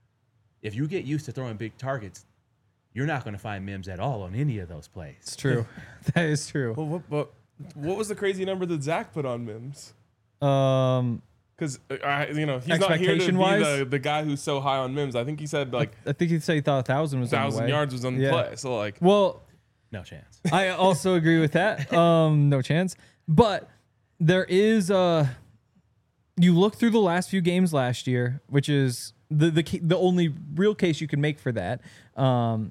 If you get used to throwing big targets, you're not going to find Mims at all on any of those plays. It's true. That is true. Well, what, what, what was the crazy number that Zach put on Mims? Um... Because, uh, you know, he's not here to be wise? the, the guy who's so high on Mims. I think he said, like... I think he said he thought a thousand was a thousand on the way. yards was on the yeah. play. So, like... Well... No chance. I also agree with that. Um, no chance. But there is... Uh, you look through the last few games last year, which is the the, the only real case you can make for that. Um...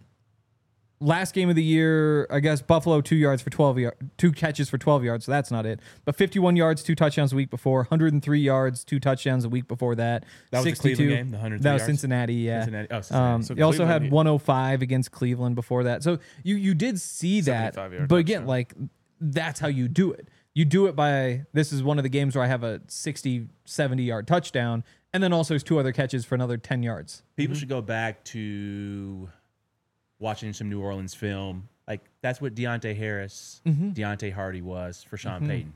Last game of the year, I guess Buffalo two yards for twelve yards, two catches for twelve yards. So that's not it. But fifty-one yards, two touchdowns a week before. one hundred three yards, two touchdowns a week before that. That was sixty-two. the Cleveland game. The one hundred three That was yards? Cincinnati. Yeah. Cincinnati. Oh, Cincinnati. Um, So you also Cleveland- had one oh five against Cleveland before that. So you you did see that. seventy-five yard But again, touchdown. like that's how you do it. You do it by this is one of the games where I have a sixty, seventy yard touchdown, and then also there's two other catches for another ten yards. People should go back to watching some New Orleans film. Like, that's what Deontay Harris, Mm-hmm. Deontay Hardy was for Sean Payton.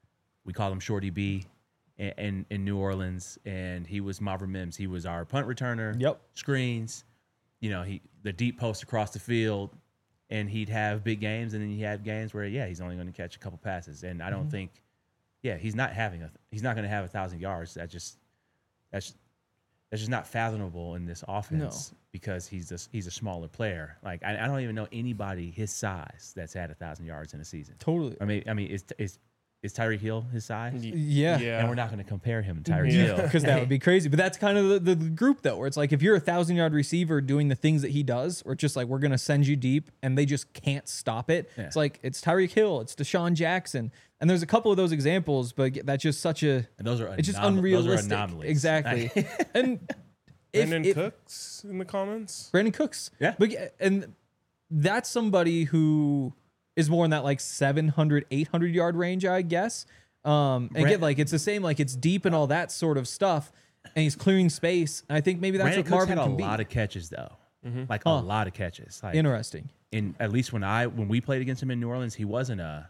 We call him Shorty B in, in, in New Orleans, and he was Marvin Mims. He was our punt returner, Yep. screens, you know, he the deep post across the field, and he'd have big games, and then he had games where, yeah, he's only going to catch a couple passes. And I don't Mm-hmm. think, yeah, he's not having a, he's not going to have a thousand yards. That just, that's, that's just not fathomable in this offense. No. Because he's a, he's a smaller player. Like, I, I don't even know anybody his size that's had a thousand yards in a season. Totally. I mean, I mean, is is is Tyreek Hill his size? Yeah. Yeah. And we're not going to compare him to Tyreek Yeah. Hill Because that would be crazy. But that's kind of the, the group, though, where it's like if you're a thousand yard receiver doing the things that he does, or just like we're going to send you deep and they just can't stop it. Yeah. It's like it's Tyreek Hill, it's Deshaun Jackson. And there's a couple of those examples, but that's just such a. And those are It's just anom- unrealistic. Those are anomalies. Exactly. and if, Brandon if, Cooks in the comments. Brandon Cooks. Yeah. But, and that's somebody who is more in that like seven hundred, eight hundred yard range, I guess. Um, and Brand- again, like it's the same, like it's deep and all that sort of stuff. And he's clearing space. And I think maybe that's Brandon what Cooks Marvin had a can be. lot of catches though, like Huh. a lot of catches. Like, Interesting. in at least when I when we played against him in New Orleans, he wasn't a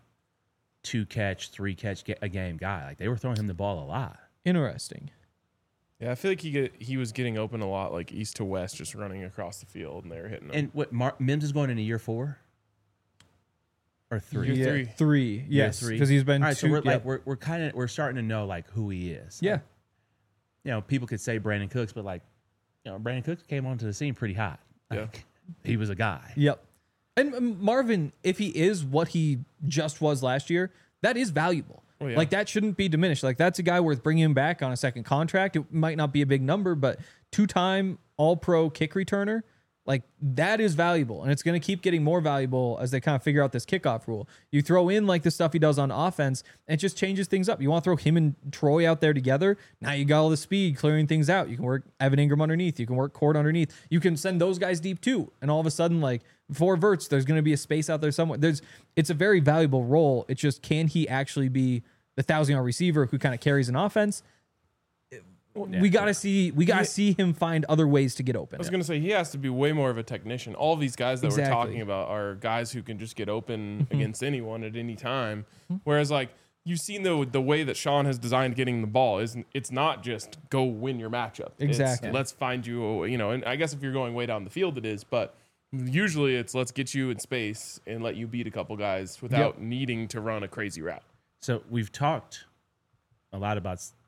two catch, three catch ga- a game guy. Like, they were throwing him the ball a lot. Interesting. Yeah, I feel like he get, he was getting open a lot, like east to west, just running across the field, and they were hitting him. And what Mar- Mims is going into year four or three? Year yeah, three. Three. Yes. three. Because he's been All right, two. so we're yeah. like we're we're kind of we're starting to know like who he is. yeah. Like, you know, people could say Brandon Cooks, but like, you know, Brandon Cooks came onto the scene pretty hot. Yeah. Like, he was a guy. Yep. And um, Marvin, if he is what he just was last year, that is valuable. Oh, yeah. Like that shouldn't be diminished. Like that's a guy worth bringing him back on a second contract. It might not be a big number, but two-time All-Pro kick returner, like that is valuable, and it's going to keep getting more valuable as they kind of figure out this kickoff rule. You throw in like the stuff he does on offense, and it just changes things up. You want to throw him and Troy out there together. Now you got all the speed clearing things out. You can work Evan Ingram underneath. You can work Cord underneath. You can send those guys deep too, and all of a sudden, like for Verts, there's going to be a space out there somewhere. There's it's a very valuable role. It's just can he actually be the thousand yard receiver who kind of carries an offense? Yeah, we gotta see. We gotta see him find other ways to get open. I was gonna say he has to be way more of a technician. All these guys that Exactly. we're talking about are guys who can just get open Mm-hmm. against anyone at any time. Whereas like you've seen the the way that Sean has designed getting the ball is it's not just go win your matchup. It's, Exactly. let's find you. You know, and I guess if you're going way down the field, it is, but. Usually it's let's get you in space and let you beat a couple guys without Yep. needing to run a crazy route. So we've talked a lot about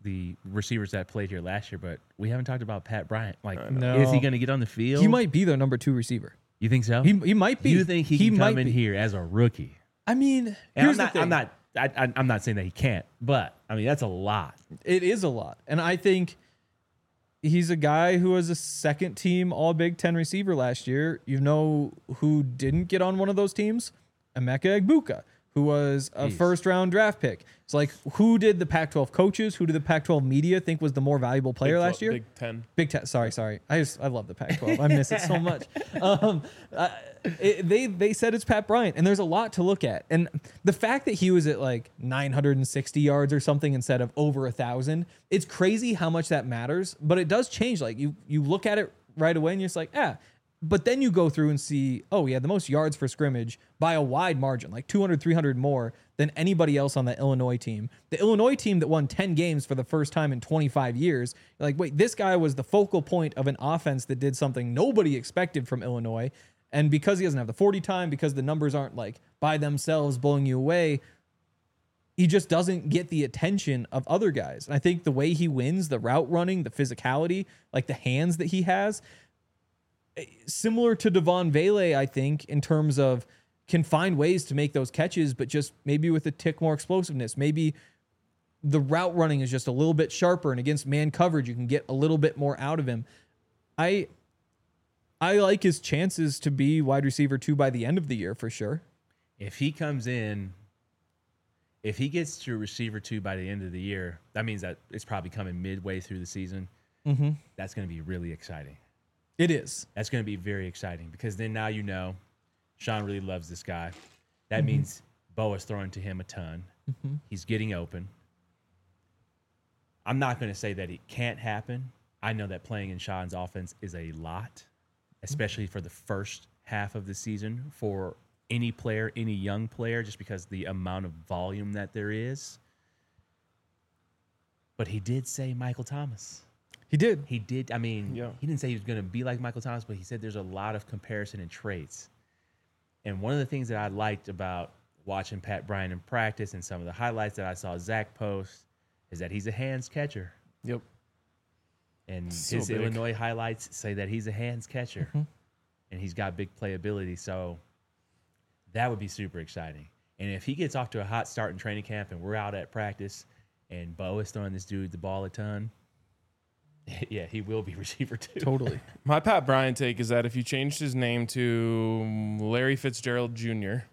the receivers that played here last year, but we haven't talked about Pat Bryant. Like, know. is he going to get on the field? He might be their number two receiver. You think so? He he might be. You think he, he can might come in be. here as a rookie? I mean, And here's I'm not. the thing. I'm not. I, I, I'm not saying that he can't, but I mean that's a lot. It is a lot, and I think he's a guy who was a second team All Big Ten receiver last year. You know who didn't get on one of those teams? Emeka Egbuka, who was a Jeez. first round draft pick. It's like, who did the Pac twelve coaches, who did the Pac twelve media think was the more valuable player Big last twelve- year? Big Ten. Big Ten. Sorry, sorry. I just I love the Pac twelve. I miss it so much. Um, uh, it, they they said it's Pat Bryant, and there's a lot to look at. And the fact that he was at like nine hundred sixty yards or something instead of over a thousand, it's crazy how much that matters. But it does change. Like you you look at it right away, and you're just like, ah. But then you go through and see, oh, he had the most yards for scrimmage by a wide margin, like two hundred, three hundred more than anybody else on the Illinois team. The Illinois team that won ten games for the first time in twenty-five years. You're like, wait, this guy was the focal point of an offense that did something nobody expected from Illinois. And because he doesn't have the forty time, because the numbers aren't like by themselves blowing you away, he just doesn't get the attention of other guys. And I think the way he wins, the route running, the physicality, like the hands that he has, similar to Devon Vele, I think, in terms of can find ways to make those catches, but just maybe with a tick more explosiveness. Maybe the route running is just a little bit sharper, and against man coverage, you can get a little bit more out of him. I I like his chances to be wide receiver two by the end of the year for sure. If he comes in, if he gets to receiver two by the end of the year, that means that it's probably coming midway through the season. Mm-hmm. That's going to be really exciting. It is. That's going to be very exciting because then now you know Sean really loves this guy. That Mm-hmm. means Bo is throwing to him a ton. Mm-hmm. He's getting open. I'm not going to say that it can't happen. I know that playing in Sean's offense is a lot, especially for the first half of the season for any player, any young player, just because the amount of volume that there is. But he did say Michael Thomas. He did. He did. I mean, Yeah. he didn't say he was going to be like Michael Thomas, but he said there's a lot of comparison and traits. And one of the things that I liked about watching Pat Bryant in practice and some of the highlights that I saw Zach post is that he's a hands catcher. Yep. And So his big. Illinois highlights say that he's a hands catcher. Mhm. And he's got big playability. So that would be super exciting. And if he gets off to a hot start in training camp and we're out at practice and Bo is throwing this dude the ball a ton, yeah, he will be receiver two. Totally. My Pat Bryant take is that if you changed his name to Larry Fitzgerald Junior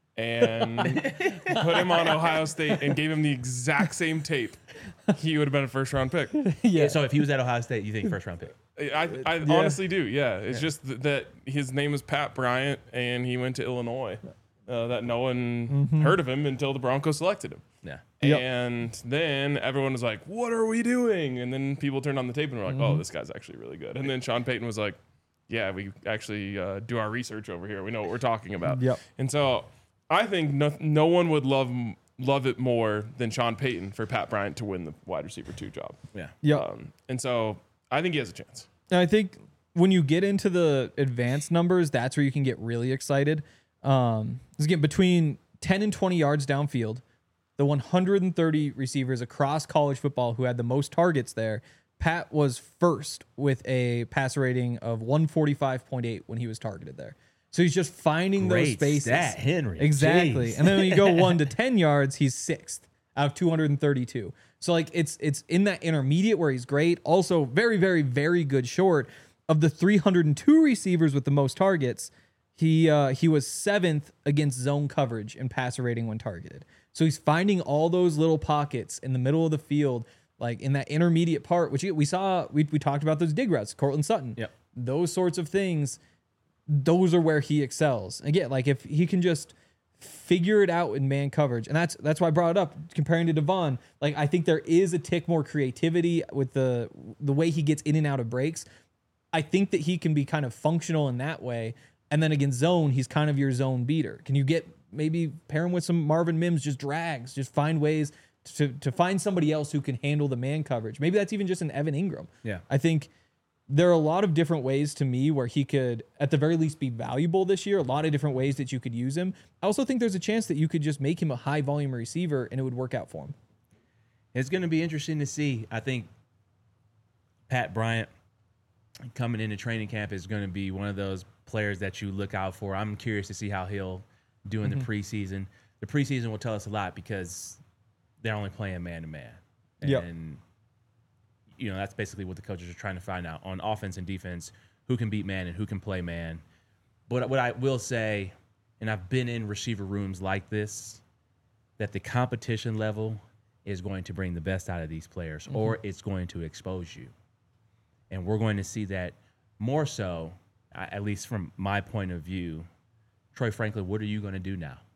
and put him on Ohio State and gave him the exact same tape, he would have been a first round pick. Yeah. So if he was at Ohio State, you think first round pick? I, I Yeah. honestly do. Yeah, it's just th- that his name is Pat Bryant and he went to Illinois. Uh, that no one heard of him until the Broncos selected him. Yeah. Yep. And then everyone was like, "What are we doing?" And then people turned on the tape and were like, "Oh, this guy's actually really good." And then Sean Payton was like, "Yeah, we actually uh, do our research over here. We know what we're talking about." Yep. And so I think no, no one would love love it more than Sean Payton for Pat Bryant to win the wide receiver two job. Yeah. Yep. Um, and so I think he has a chance. And I think when you get into the advanced numbers, that's where you can get really excited. Um, again, between ten and twenty yards downfield, the one hundred thirty receivers across college football who had the most targets there, Pat was first with a passer rating of one forty-five point eight when he was targeted there. So he's just finding those Great spaces. stat, Henry. Exactly. Jeez. And then when you go one to ten yards, he's sixth out of two hundred thirty-two. So like it's it's in that intermediate where he's great. Also very, very, very good short. Of the three hundred two receivers with the most targets, he uh, he was seventh against zone coverage in passer rating when targeted. So he's finding all those little pockets in the middle of the field, like in that intermediate part, which we saw, we, we talked about those dig routes, Cortland Sutton. Yep. Those sorts of things, those are where he excels. Again, like if he can just figure it out in man coverage, and that's that's why I brought it up comparing to Devon. Like I think there is a tick more creativity with the the way he gets in and out of breaks. I think that he can be kind of functional in that way. And then against zone, he's kind of your zone beater. Can you get maybe pair him with some Marvin Mims, just drags, just find ways to to find somebody else who can handle the man coverage. Maybe that's even just an Evan Ingram. Yeah. I think there are a lot of different ways to me where he could, at the very least, be valuable this year. A lot of different ways that you could use him. I also think there's a chance that you could just make him a high volume receiver and it would work out for him. It's going to be interesting to see. I think Pat Bryant coming into training camp is going to be one of those players that you look out for. I'm curious to see how he'll do in mm-hmm. the preseason. The preseason will tell us a lot because they're only playing man to man. And, yep. you know, that's basically what the coaches are trying to find out on offense and defense, who can beat man and who can play man. But what I will say, and I've been in receiver rooms like this, that the competition level is going to bring the best out of these players, mm-hmm. or it's going to expose you. And we're going to see that more so, at least from my point of view. Troy Franklin, what are you going to do now?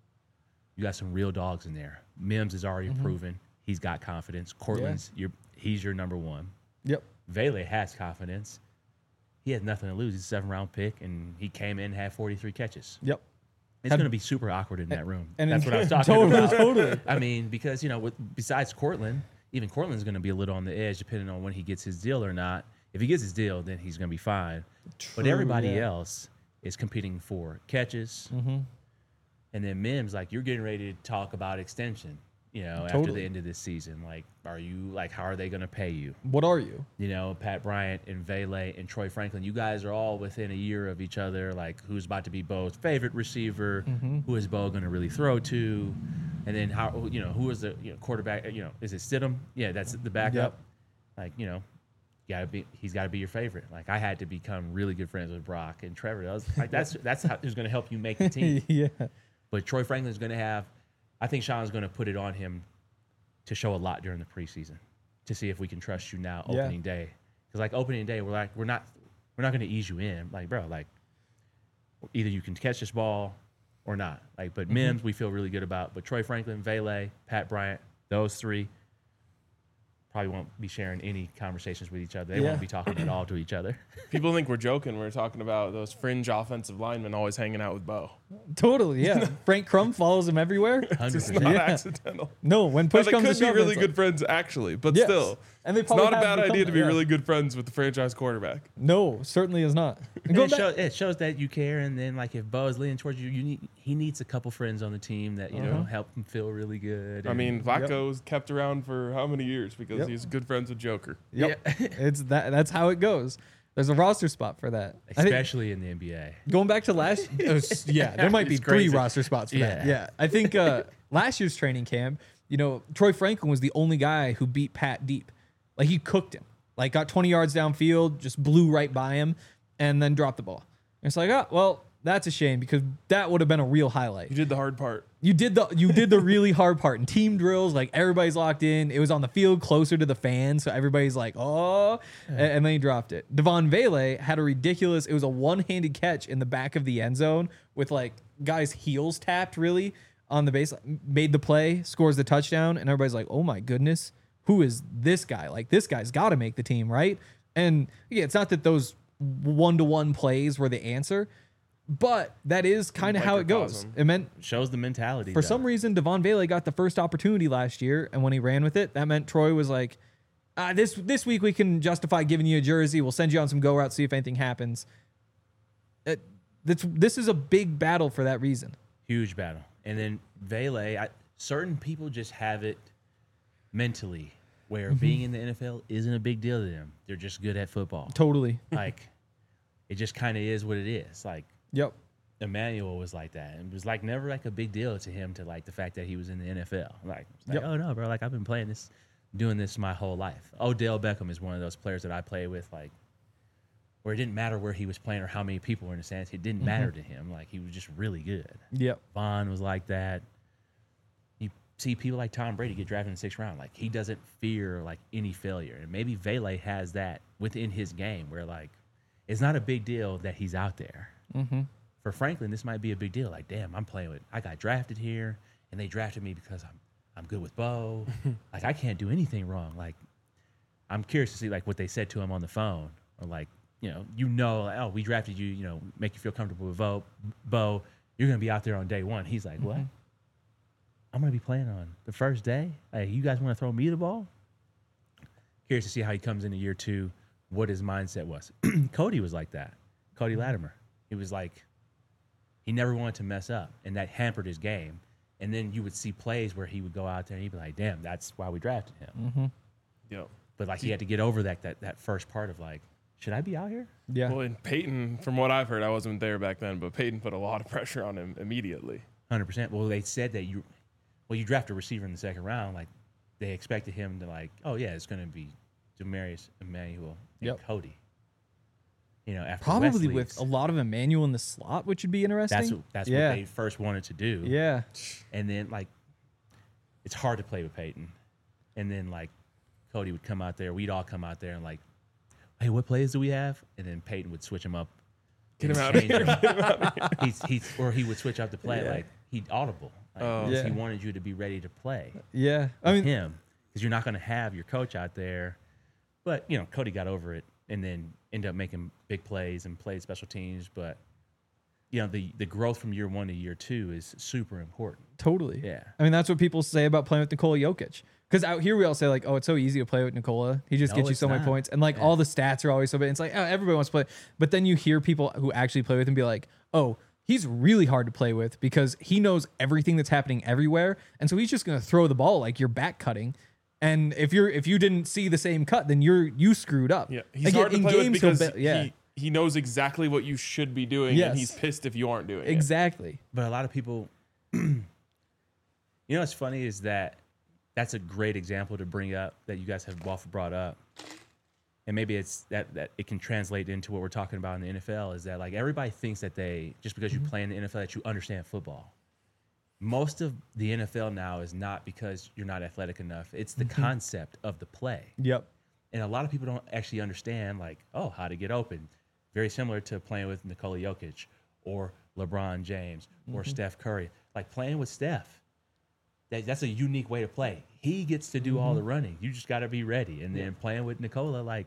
You got some real dogs in there. Mims is already mm-hmm. proven. He's got confidence. Cortland's, yeah. your, he's your number one. Yep. Vele has confidence. He has nothing to lose. He's a seven-round pick, and he came in and had forty-three catches. Yep. It's going to be super awkward in that room. And that's what I was talking totally, about. Totally. I mean, because, you know, with, besides Cortland, even Cortland's going to be a little on the edge depending on when he gets his deal or not. If he gets his deal, then he's going to be fine. True, but everybody yeah. else is competing for catches. Mm-hmm. And then Mims, like, you're getting ready to talk about extension, you know, totally. after the end of this season. Like, are you, like, how are they going to pay you? What are you? You know, Pat Bryant and Vele and Troy Franklin, you guys are all within a year of each other. Like, who's about to be Bo's favorite receiver? Mm-hmm. Who is Bo going to really throw to? And then, how, you know, who is the you know, quarterback? You know, is it Stidham? Yeah, that's the backup. Yep. Like, you know, gotta be, he's got to be your favorite. Like, I had to become really good friends with Brock and Trevor. That was, like, that's that's how, who's going to help you make the team. yeah. But Troy Franklin's going to have, I think Sean's going to put it on him to show a lot during the preseason to see if we can trust you now opening yeah. day. Because, like, opening day, we're like, we're not we're not going to ease you in. Like, bro, like, either you can catch this ball or not. Like, but mm-hmm. Mims, we feel really good about. But Troy Franklin, Vele, Pat Bryant, those three probably won't be sharing any conversations with each other. They yeah. won't be talking at all to each other. People think we're joking. We're talking about those fringe offensive linemen always hanging out with Bo. Totally, yeah. Frank Crum follows him everywhere. one hundred percent. It's not Yeah. accidental. No, when push Now, they comes could to be shove, really it's good like- friends, actually, but Yes. still. And they It's probably not a have bad become idea that, to be yeah. really good friends with the franchise quarterback. No, certainly is not. And And going it, back- shows, it shows that you care, and then like if Bo is leaning towards you, you need he needs a couple friends on the team that you know Uh-huh. help him feel really good. I and- mean, Vlaco was kept around for how many years because Yep. he's good friends with Joker. Yep. Yeah. it's that. That's how it goes. There's a roster spot for that. I think- especially in the N B A. Going back to last, uh, s- yeah, there might be It's three crazy. roster spots for that. Yeah. Yeah, I think uh, last year's training camp, you know, Troy Franklin was the only guy who beat Pat deep. Like he cooked him, like got twenty yards downfield, just blew right by him, and then dropped the ball. And it's like, oh, well, that's a shame because that would have been a real highlight. You did the hard part. You did the you did the really hard part in team drills. Like everybody's locked in. It was on the field closer to the fans, so everybody's like, "Oh!" And, and then he dropped it. Devon Vele had a ridiculous. It was a one-handed catch in the back of the end zone with like guys' heels tapped really on the base. Made the play, scores the touchdown, and everybody's like, "Oh my goodness, who is this guy? Like this guy's got to make the team, right?" And yeah, it's not that those one-to-one plays were the answer. But that is kind of how it goes. Microcosm. It meant Shows the mentality. for though. some reason Devon Vele got the first opportunity last year, and when he ran with it, that meant Troy was like, ah, "This this week we can justify giving you a jersey. We'll send you on some go routes, see if anything happens." It, this this is a big battle for that reason. Huge battle. And then Vele, I, certain people just have it mentally where Mm-hmm. being in the N F L isn't a big deal to them. They're just good at football. Totally. Like, it just kind of is what it is. Like, Yep. Emmanuel was like that. It was like never like a big deal to him to like the fact that he was in the N F L. Like, it's like Yep. oh no, bro, like I've been playing this, doing this my whole life. Odell Beckham is one of those players that I play with, like, where it didn't matter where he was playing or how many people were in the stands. It didn't matter to him. Like, he was just really good. Yep. Vaughn was like that. You see people like Tom Brady get drafted in the sixth round. Like, he doesn't fear like any failure. And maybe Vele has that within his game where like it's not a big deal that he's out there. Mm-hmm. For Franklin, this might be a big deal. Like, damn, I'm playing with, I got drafted here, and they drafted me because I'm, I'm good with Bo. Like, I can't do anything wrong. Like, I'm curious to see like what they said to him on the phone, or like, you know, you know, like, oh, we drafted you, you know, make you feel comfortable with Bo. Bo, you're gonna be out there on day one. He's like, what? I'm gonna be playing on the first day. Like, you guys want to throw me the ball? Curious to see how he comes into year two, what his mindset was. Cody was like that. Cody Latimer. He was like, he never wanted to mess up, and that hampered his game. And then you would see plays where he would go out there and he'd be like, damn, that's why we drafted him. Mm-hmm. Yep. But like he had to get over that that that first part of like, should I be out here? Yeah. Well, and Peyton, from what I've heard, I wasn't there back then, but Peyton put a lot of pressure on him immediately. one hundred percent. Well, they said that you, well, you draft a receiver in the second round. Like they expected him to like, oh yeah, it's going to be Demarius Emmanuel and Yep. Cody. You know, after Probably Wesley's, with a lot of Emmanuel in the slot, which would be interesting. that's what, that's yeah. what they first wanted to do. Yeah. And then like, it's hard to play with Peyton. And then like, Cody would come out there. We'd all come out there and like, hey, what plays do we have? And then Peyton would switch him up. Get and him out of change here. them. Get him out of here. He's, he's, or he would switch up the play. Yeah. Like he'd audible. Like, Oh. because Yeah. He wanted you to be ready to play. Yeah. I mean, him because you're not going to have your coach out there. But you know, Cody got over it and then ended up making big plays and played special teams. But you know, the the growth from year one to year two is super important. totally. Yeah. I mean, that's what people say about playing with Nikola Jokic. Because out here we all say like, oh, it's so easy to play with Nikola. He just No, gets you it's so many not. points, and like Yeah. all the stats are always so big. It's like, oh, everybody wants to play. But then you hear people who actually play with him be like, oh, he's really hard to play with because he knows everything that's happening everywhere, and so he's just gonna throw the ball like you're back cutting. And if you're if you didn't see the same cut, then you're you screwed up. Yeah, he's Like, hard to in play with games, he'll because be- yeah, he, he knows exactly what you should be doing, Yes. and he's pissed if you aren't doing it. exactly. But a lot of people, you know, what's funny is that that's a great example to bring up that you guys have both brought up. And maybe it's that, that it can translate into what we're talking about in the N F L is that like everybody thinks that they, just because you play in the N F L, that you understand football. Most of the N F L now is not because you're not athletic enough. It's the concept of the play. Yep. And a lot of people don't actually understand like, oh, how to get open. Very similar to playing with Nikola Jokic or LeBron James or Steph Curry. Like playing with Steph. That, that's a unique way to play. He gets to do all the running. You just got to be ready. And then playing with Nikola, like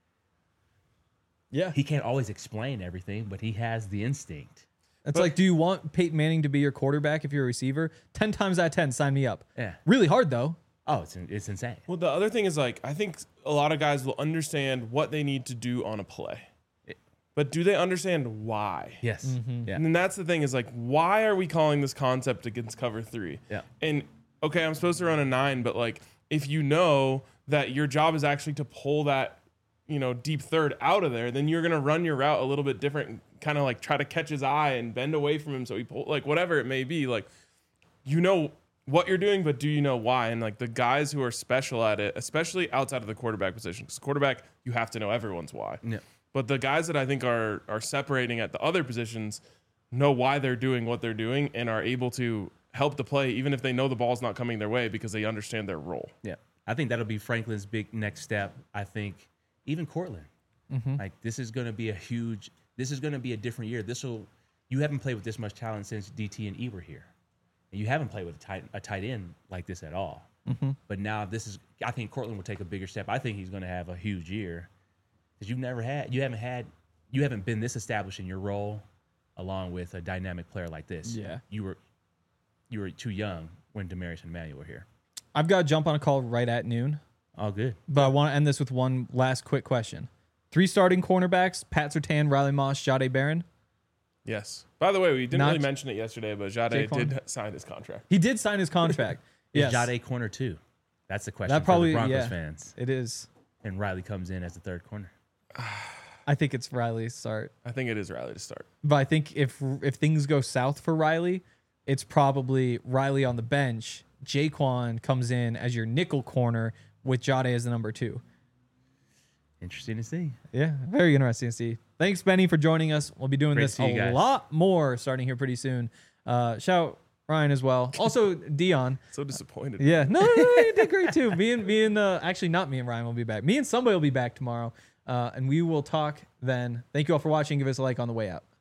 Yeah. he can't always explain everything, but he has the instinct. It's But- like, do you want Peyton Manning to be your quarterback if you're a receiver? Ten times out of ten, sign me up. Yeah. Really hard though. Oh, it's it's insane. Well, the other thing is like I think a lot of guys will understand what they need to do on a play, but do they understand why? Yes. Mm-hmm. Yeah. And then that's the thing is like, why are we calling this concept against cover three? Yeah. And okay, I'm supposed to run a nine, but like if you know that your job is actually to pull that, you know, deep third out of there, then you're gonna run your route a little bit different, kind of like try to catch his eye and bend away from him so he pull like whatever it may be. Like you know what you're doing, but do you know why? And like the guys who are special at it, especially outside of the quarterback position, because quarterback you have to know everyone's why. Yeah. But the guys that I think are are separating at the other positions know why they're doing what they're doing and are able to help the play, even if they know the ball's not coming their way because they understand their role. Yeah. I think that'll be Franklin's big next step. I think even Cortland. Like this is going to be a huge, this is going to be a different year. This will, you haven't played with this much talent since D T and E were here. And you haven't played with a tight, a tight end like this at all. But now this is, I think Cortland will take a bigger step. I think he's going to have a huge year because you've never had, you haven't had, you haven't been this established in your role along with a dynamic player like this. Yeah. You were, you were too young when Demarius and Emmanuel were here. I've got to jump on a call right at noon, All good. but I want to end this with one last quick question. Three starting cornerbacks: Pat Surtain, Riley Moss, Jahdae Barron. Yes. By the way, we didn't Not- really mention it yesterday, but Jahdae Jaquan? did sign his contract. He did sign his contract. Is yes, Jahdae corner two? That's the question that probably for the Broncos yeah, fans. it is. And Riley comes in as the third corner. I think it's Riley's start, I think it is Riley to start. but I think if if things go south for Riley, it's probably Riley on the bench. Jaquan comes in as your nickel corner with Jahdae as the number two. Interesting to see. Yeah, very interesting to see. Thanks, Benny, for joining us. We'll be doing Great to this see you a guys. lot more starting here pretty soon. Uh, shout Ryan as well. Also, Dion. So disappointed. Yeah, no, no, no, you did great too. Me and me and uh, actually not me and Ryan will be back. Me and somebody will be back tomorrow, uh, and we will talk then. Thank you all for watching. Give us a like on the way out.